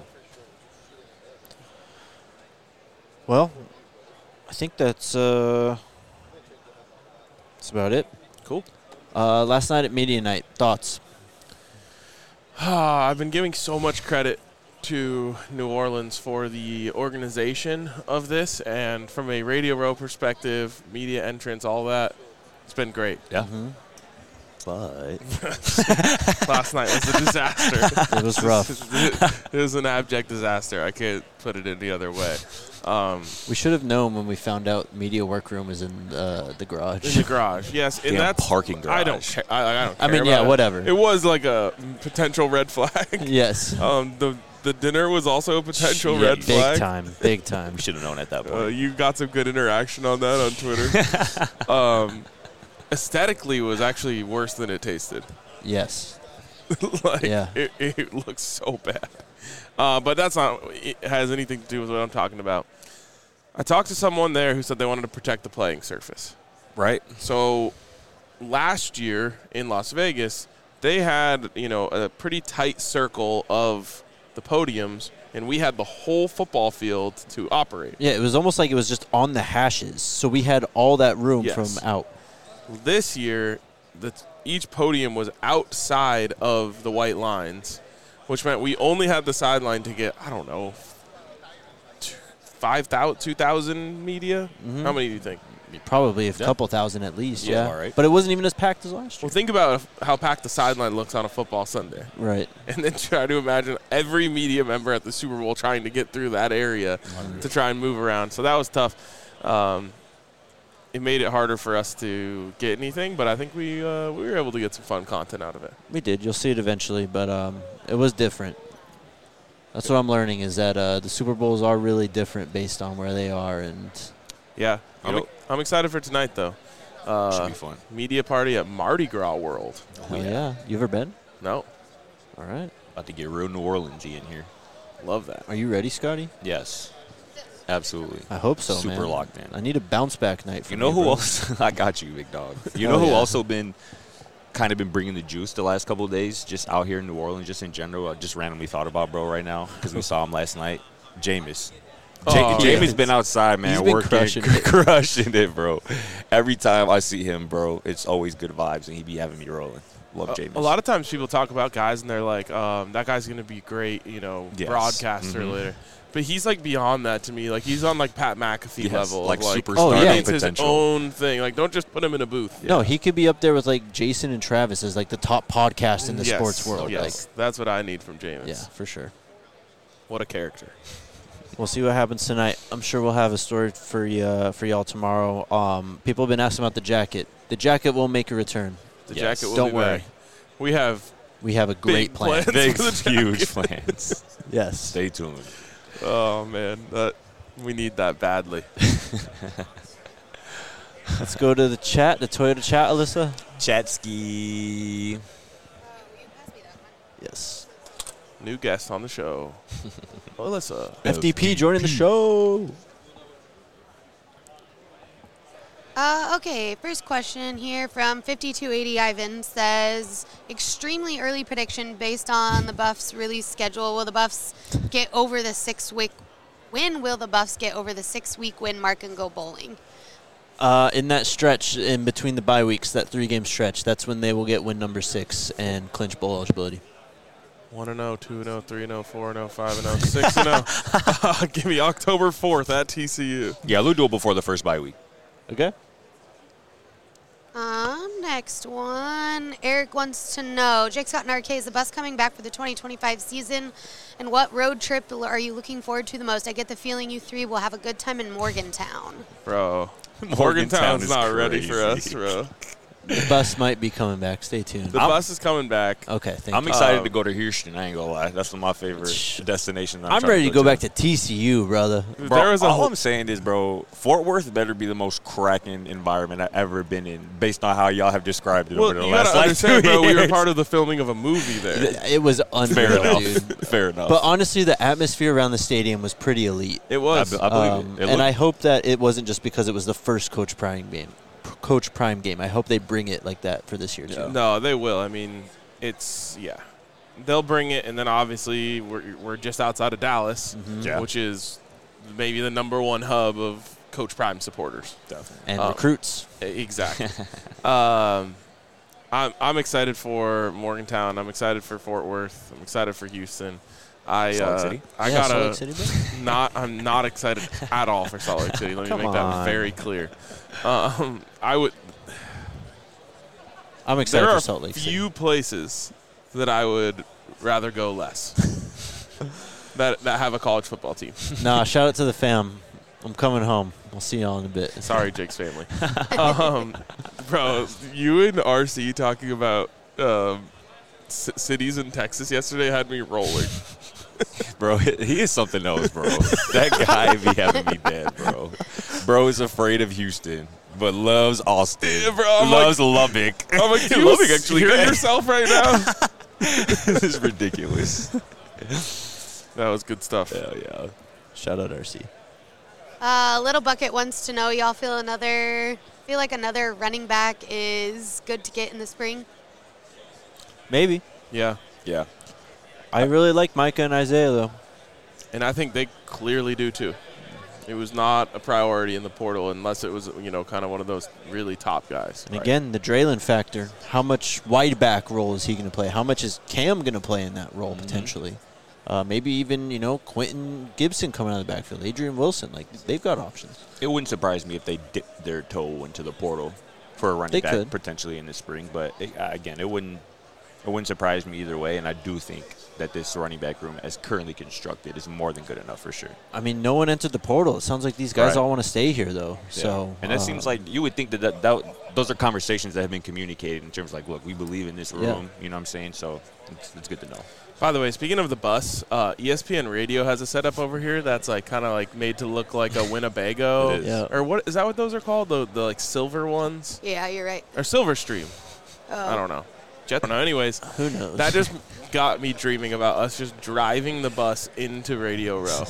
Well, I think that's about it. Cool. Last night at Media Night, thoughts? I've been giving so much credit to New Orleans for the organization of this, and from a Radio Row perspective, media entrance, all that, it's been great. Yeah. But last night was a disaster. It was rough. It was an abject disaster. I can't put it any other way. We should have known when we found out media workroom was in the garage. In the garage, yes. And that's parking garage. I don't care. I don't care. I mean, yeah, whatever. It was like a potential red flag. Yes. The dinner was also a potential red flag. Big time. We should have known at that point. You got some good interaction on that on Twitter. Aesthetically, was actually worse than it tasted. Yes. It looks so bad. But that's not it has anything to do with what I'm talking about. I talked to someone there who said they wanted to protect the playing surface. Right. So last year in Las Vegas, they had, a pretty tight circle of the podiums, and we had the whole football field to operate. Yeah, it was almost like it was just on the hashes. So we had all that room from out. This year, each podium was outside of the white lines, which meant we only had the sideline to get, 2,000 media? How many do you think? Probably a couple thousand at least, yeah. All right. But it wasn't even as packed as last year. Well, think about how packed the sideline looks on a football Sunday. Right. And then try to imagine every media member at the Super Bowl trying to get through that area to try and move around. So that was tough. It made it harder for us to get anything, but I think we were able to get some fun content out of it. We did. You'll see it eventually, but it was different. That's what I'm learning is that the Super Bowls are really different based on where they are. And yeah, I'm excited for tonight, though. Should be fun. Media party at Mardi Gras World. Oh, yeah. You ever been? No. All right. About to get real New Orleans-y in here. Love that. Are you ready, Scotty? Yes. Absolutely. I hope so, man. Super locked in. I need a bounce back night. You know who else? I got you, big dog. You know who also been bringing the juice the last couple of days, just out here in New Orleans, just in general. I just randomly thought about bro right now because we saw him last night. Jameis. Jameis been outside, man, working, crushing it, bro. Every time I see him, bro, it's always good vibes, and he be having me rolling. Love Jameis. A lot of times people talk about guys, and they're like, that guy's going to be great, broadcaster later. But he's, beyond that to me. He's on, Pat McAfee level. Superstar It's his own thing. Don't just put him in a booth. No, he could be up there with, Jason and Travis as, the top podcast in the sports world. Yes, that's what I need from Jameis. Yeah, for sure. What a character. We'll see what happens tonight. I'm sure we'll have a story for y'all tomorrow. People have been asking about the jacket. The jacket will make a return. The jacket will Don't be worry. back. We have a great plan. Big, huge plans. Yes. Stay tuned. Oh, man. We need that badly. Let's go to the chat, the Toyota chat, Alyssa. Chatski. Yes. New guest on the show. Alyssa. FDP joining the show. Okay, first question here from 5280 Ivan says, extremely early prediction based on the Buffs' release schedule. Will the Buffs get over the 6-week win? Will the Buffs get over the 6-week win mark and go bowling? In that stretch in between the bye weeks, that 3-game stretch, that's when they will get win number 6 and clinch bowl eligibility. 1-0, 2-0, 3-0, 4-0, 5-0, 6-0. Give me October 4th at TCU. Yeah, we'll do it before the first bye week. Okay. Next one. Eric wants to know, Jake Scott and RK, is the Bus coming back for the 2025 season? And what road trip are you looking forward to the most? I get the feeling you three will have a good time in Morgantown. Bro, Morgantown's not ready for us, bro. The Bus might be coming back. Stay tuned. The Bus is coming back. Okay, thank I'm you. excited to go to Houston. I ain't gonna lie. That's one of my favorite destinations. I'm ready to go back to TCU, brother. Bro, all I'm saying is, bro, Fort Worth better be the most cracking environment I've ever been in, based on how y'all have described it over the last understand, 2 bro. years. We were part of the filming of a movie there. It was unfair enough. dude. Fair enough. But honestly, the atmosphere around the stadium was pretty elite. It was. I believe it. And I hope that it wasn't just because it was the first Coach Prime game. I hope they bring it like that for this year too. No, they will. I mean, they'll bring it, and then obviously we're just outside of Dallas, which is maybe the #1 hub of Coach Prime supporters. Definitely. And recruits. Exactly. I'm excited for Morgantown. I'm excited for Fort Worth. I'm excited for Houston. Salt Lake City, bro? I'm not excited at all for Salt Lake City. Let me make that very clear. I'm excited for Salt Lake City. There are few places that I would rather go less that have a college football team. Nah, shout out to the fam. I'm coming home. We'll see y'all in a bit. Sorry, Jake's family. Bro, you and RC talking about cities in Texas yesterday had me rolling. Bro, he is something else, bro. That guy be having me dead, bro. Bro is afraid of Houston, but loves Austin. Yeah, bro, loves Lubbock. I'm like, you Lubbock actually hear good. yourself right now? This is ridiculous. That was good stuff. Hell yeah. Shout out RC. Little Bucket wants to know, y'all feel like another running back is good to get in the spring? Maybe. Yeah. Yeah. I really like Micah and Isaiah, though. And I think they clearly do, too. It was not a priority in the portal unless it was, kind of one of those really top guys. And again, the Draylon factor. How much wide back role is he going to play? How much is Cam going to play in that role potentially? Maybe even, Quentin Gibson coming out of the backfield. Adrian Wilson. They've got options. It wouldn't surprise me if they dipped their toe into the portal for a running back could. potentially in the spring. But, again, it wouldn't surprise me either way. And I do think that this running back room, as currently constructed, is more than good enough for sure. I mean, no one entered the portal. It sounds like these guys all want to stay here, though. Yeah. So, and that seems like you would think that those are conversations that have been communicated in terms of look, we believe in this room. Yeah. You know what I'm saying? So it's good to know. By the way, speaking of the bus, ESPN Radio has a setup over here that's kind of made to look like a Winnebago. It is. Yeah. Or what is that? What those are called? The silver ones? Yeah, you're right. Or Silver Stream? I don't know. I don't know. Anyways, who knows? That just got me dreaming about us just driving the bus into Radio Row.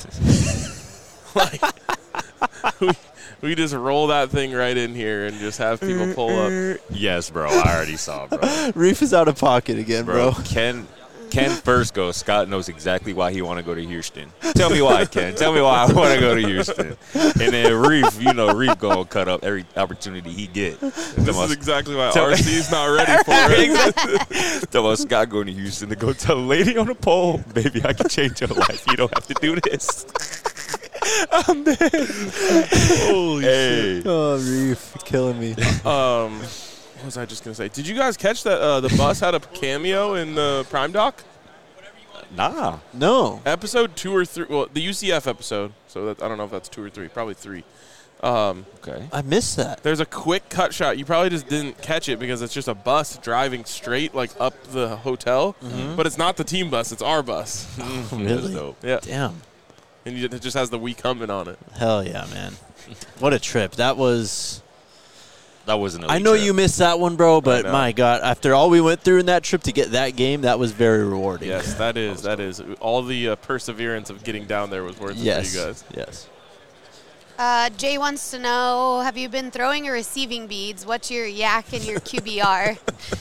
We just roll that thing right in here and just have people pull up. Yes, bro. I already saw, bro. Reef is out of pocket again, bro. Ken first goes. Scott knows exactly why he want to go to Houston. Tell me why, Ken. Tell me why I want to go to Houston. And then Reef, Reef going to cut up every opportunity he get. This is exactly why RC's not ready for it. Tell us Scott going to Houston to go tell a lady on the pole, baby, I can change your life. You don't have to do this. I'm dead. Holy shit. Oh, Reef, killing me. What was I just gonna say? Did you guys catch that the bus had a cameo in the Prime Doc? Nah. No. Episode 2 or 3. Well, the UCF episode. So I don't know if that's 2 or 3. Probably 3. Okay. I missed that. There's a quick cut shot. You probably just didn't catch it because it's just a bus driving straight up the hotel. Mm-hmm. But it's not the team bus. It's our bus. Oh, really? That's dope. Yeah. Damn. And it just has the "We Comin'" on it. Hell yeah, man. What a trip. That wasn't I know trip. you missed that one, bro, but my God, after all we went through in that trip to get that game, that was very rewarding. Yes, that is. All the perseverance of getting down there was worth it for you guys. Yes. Jay wants to know, have you been throwing or receiving beads? What's your yak and your QBR?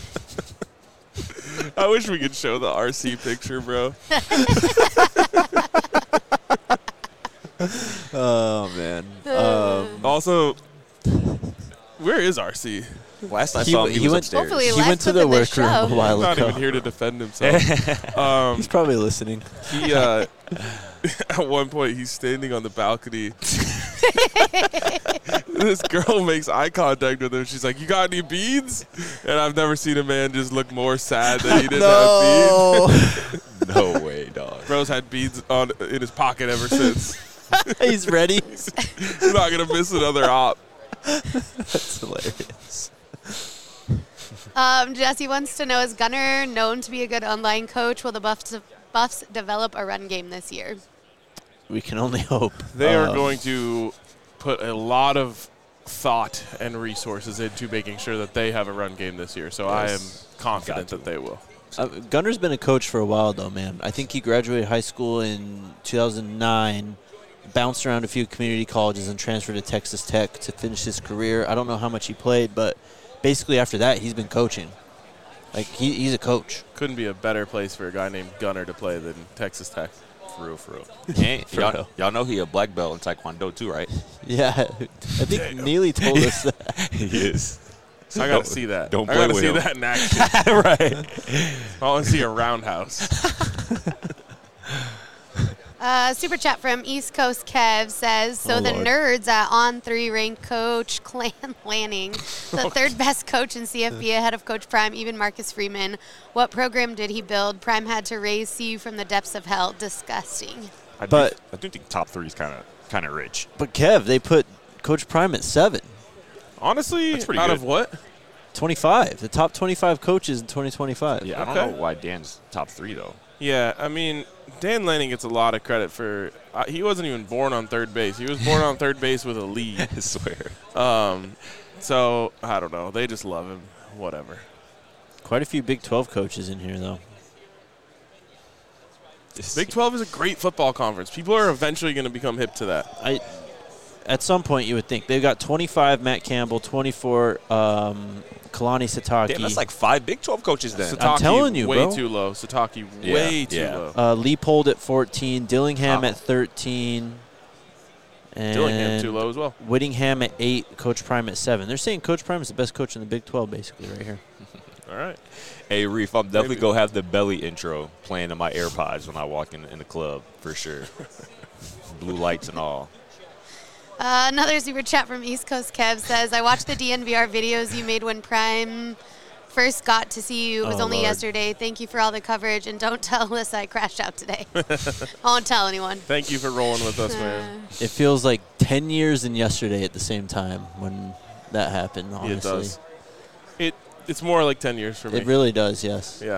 I wish we could show the RC picture, bro. Oh, man. Also, where is RC? Last I saw him, he was went, upstairs. Hopefully he left went to within the the workroom show. a while Not ago. even here to defend himself. He's probably listening. He at one point he's standing on the balcony. This girl makes eye contact with him. She's like, "You got any beads?" And I've never seen a man just look more sad that he didn't have beads. No way, dog. Bro's had beads in his pocket ever since. He's ready. He's not gonna miss another op. That's hilarious. Jesse wants to know, is Gunner known to be a good online coach? Will the Buffs develop a run game this year? We can only hope. They are going to put a lot of thought and resources into making sure that they have a run game this year. So I am confident that they will. Gunner's been a coach for a while, though, man. I think he graduated high school in 2009, bounced around a few community colleges, and transferred to Texas Tech to finish his career. I don't know how much he played, but basically after that, he's been coaching. Like, he's a coach. Couldn't be a better place for a guy named Gunner to play than Texas Tech. For real. Y'all know he a black belt in Taekwondo too, right? Yeah. I think Neely told us that. He is. I got to see that. Don't I play got to with see him. that in action. Right. I want to see a roundhouse. Super chat from East Coast Kev says, so the Lord. nerds at On3 ranked Coach Clan Lanning, the third best coach in CFB ahead of Coach Prime, even Marcus Freeman. What program did he build? Prime had to raise CU from the depths of hell. Disgusting. I do think top 3 is kind of rich. But, Kev, they put Coach Prime at 7. Honestly, That's pretty out good. of what? 25. The top 25 coaches in 2025. Yeah, I Okay. don't know why Dan's top 3 though. Yeah, I mean, Dan Lanning gets a lot of credit for he wasn't even born on third base. He was born on third base with a lead. I swear. So, I don't know. They just love him. Whatever. Quite a few Big 12 coaches in here, though. Big 12 is a great football conference. People are eventually going to become hip to that. At some point, you would think. They've got 25 Matt Campbell, 24 Kalani Sataki. Damn, that's like 5 Big 12 coaches then. Sataki, telling you, way bro. too low. Sataki, Yeah, way too yeah. low. Leopold at 14, Dillingham at 13, and Dillingham too low as well. Whittingham at 8, Coach Prime at 7. They're saying Coach Prime is the best coach in the Big 12, basically, right here. All right. Hey, Reef, I'm definitely Maybe. going to have the belly intro playing in my AirPods when I walk in the club, for sure. Blue lights and all. Another super chat from East Coast Kev says, I watched the DNVR videos you made when Prime first got to see you. It was Oh, only Lord. yesterday. Thank you for all the coverage, and don't tell Alyssa I crashed out today. I won't tell anyone. Thank you for rolling with us, man. It feels like 10 years and yesterday at the same time when that happened, honestly. It does. It's more like 10 years for me. It really does, yes. Yeah.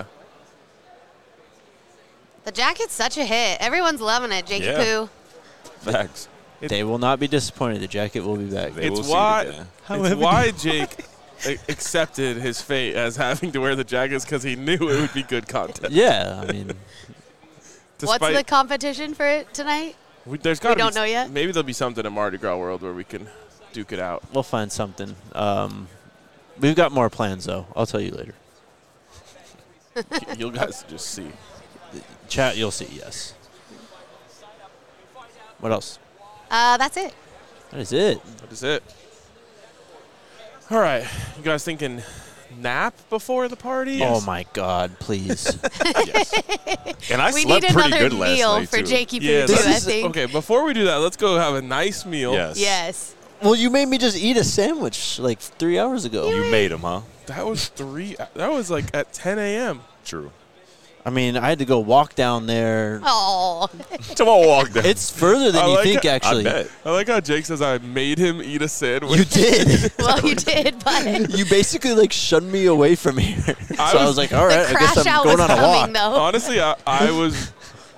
The jacket's such a hit. Everyone's loving it, Jakey Yeah. Poo. Facts. They will not be disappointed. The jacket will be back. They will It's see it why, again. it's why Jake accepted his fate as having to wear the jackets, because he knew it would be good content. Yeah, I mean, What's the competition for it tonight? There's gotta don't be, know yet? Maybe there'll be something in Mardi Gras World where we can duke it out. we'll find something. We've got more plans, though. I'll tell you later. You guys just see. Chat, you'll see, yes. What else? That's it. That is it. That is it. All right. You guys thinking nap before the party? Oh, my God, please. And I We slept need pretty another good last meal night, for too. Jakey Poo, Yeah, too, this I is, think. okay, before we do that, let's go have a nice meal. Yes. Yes. Well, you made me just eat a sandwich like 3 hours ago. You made them, huh? That was like at 10 a.m. True. I mean, I had to go walk down there. Oh. Come on, walk there. It's further than I you like think, it. actually. I bet. I like how Jake says I made him eat a sandwich. You did. Well, you did, but You basically like shunned me away from here. So I was like, all right, the I guess crash I'm out going was on a walk. coming, though. Honestly, I was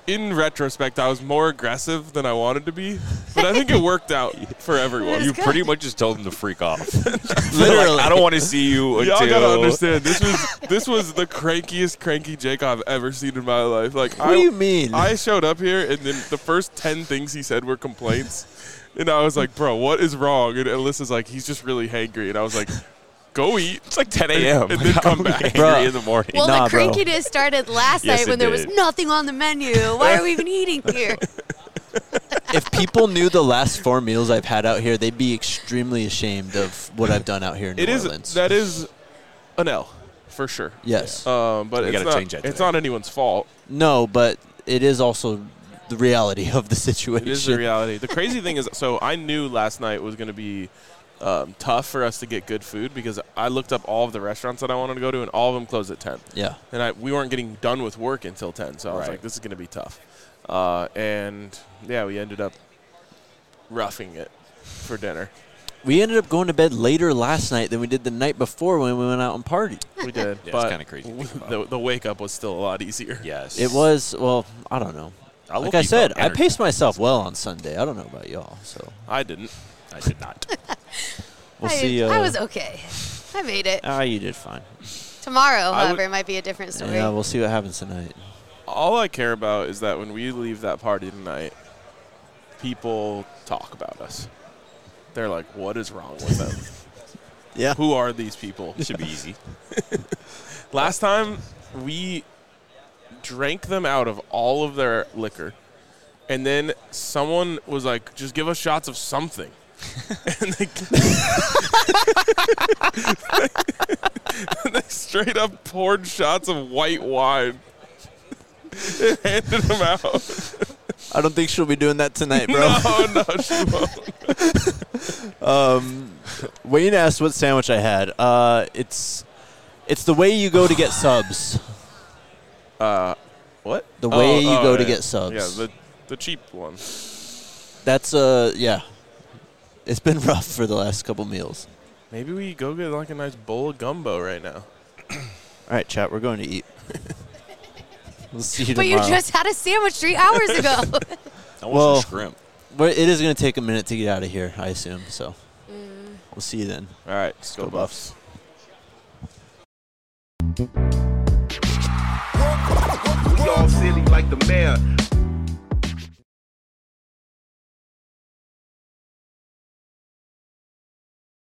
in retrospect, I was more aggressive than I wanted to be, but I think it worked out for everyone. You pretty much just told them to freak off. Literally. Like, I don't want to see you until. Y'all gotta understand, this was the crankiest cranky Jake I've ever seen in my life. Like, What do you mean? I showed up here, and then the first 10 things he said were complaints, and I was like, bro, what is wrong? And Alyssa's like, he's just really hangry, and I was like, go eat. It's like 10 a.m. And then come back. Angry in the morning. Well, Nah, the bro. crankiness started last Yes, night it when there was did. nothing on the menu. Why are we even eating here? If people knew the last 4 meals I've had out here, they'd be extremely ashamed of what I've done out here in New Orleans. That is an L, for sure. Yes. But We it's gotta change that it's today. not anyone's fault. No, but it is also the reality of the situation. It is the reality. The crazy thing is, so I knew last night was going to be tough for us to get good food because I looked up all of the restaurants that I wanted to go to, and all of them closed at 10. Yeah. And we weren't getting done with work until 10, so I was Right. like, this is going to be tough. And, yeah, we ended up roughing it for dinner. We ended up going to bed later last night than we did the night before when we went out and partied. We did. Yeah, it's but kinda crazy to think about. the wake-up was still a lot easier. Yes. It was, well, I don't know. I Like low-key I said, felt I energy. paced myself well on Sunday. I don't know about y'all, so I didn't. I did not. we'll see. I was okay. I made it. You did fine. Tomorrow, I however, would- might be a different story. Yeah, we'll see what happens tonight. All I care about is that when we leave that party tonight, people talk about us. They're like, what is wrong with them? Yeah. Who are these people? This should be easy. Last time, we drank them out of all of their liquor, and then someone was like, just give us shots of something. And they straight up poured shots of white wine and handed them out. I don't think she'll be doing that tonight, bro. No, she won't. Wayne asked what sandwich I had. It's the way you go to get subs. What? The way you go to yeah. get subs. Yeah, the cheap one. That's yeah. It's been rough for the last couple meals. Maybe we go get like a nice bowl of gumbo right now. All right, chat, we're going to eat. We'll see you But tomorrow. you just had a sandwich 3 hours ago. I want Well- some shrimp. It is going to take a minute to get out of here, I assume. So we'll see you then. All right, let's go Buffs. We all silly like the mayor.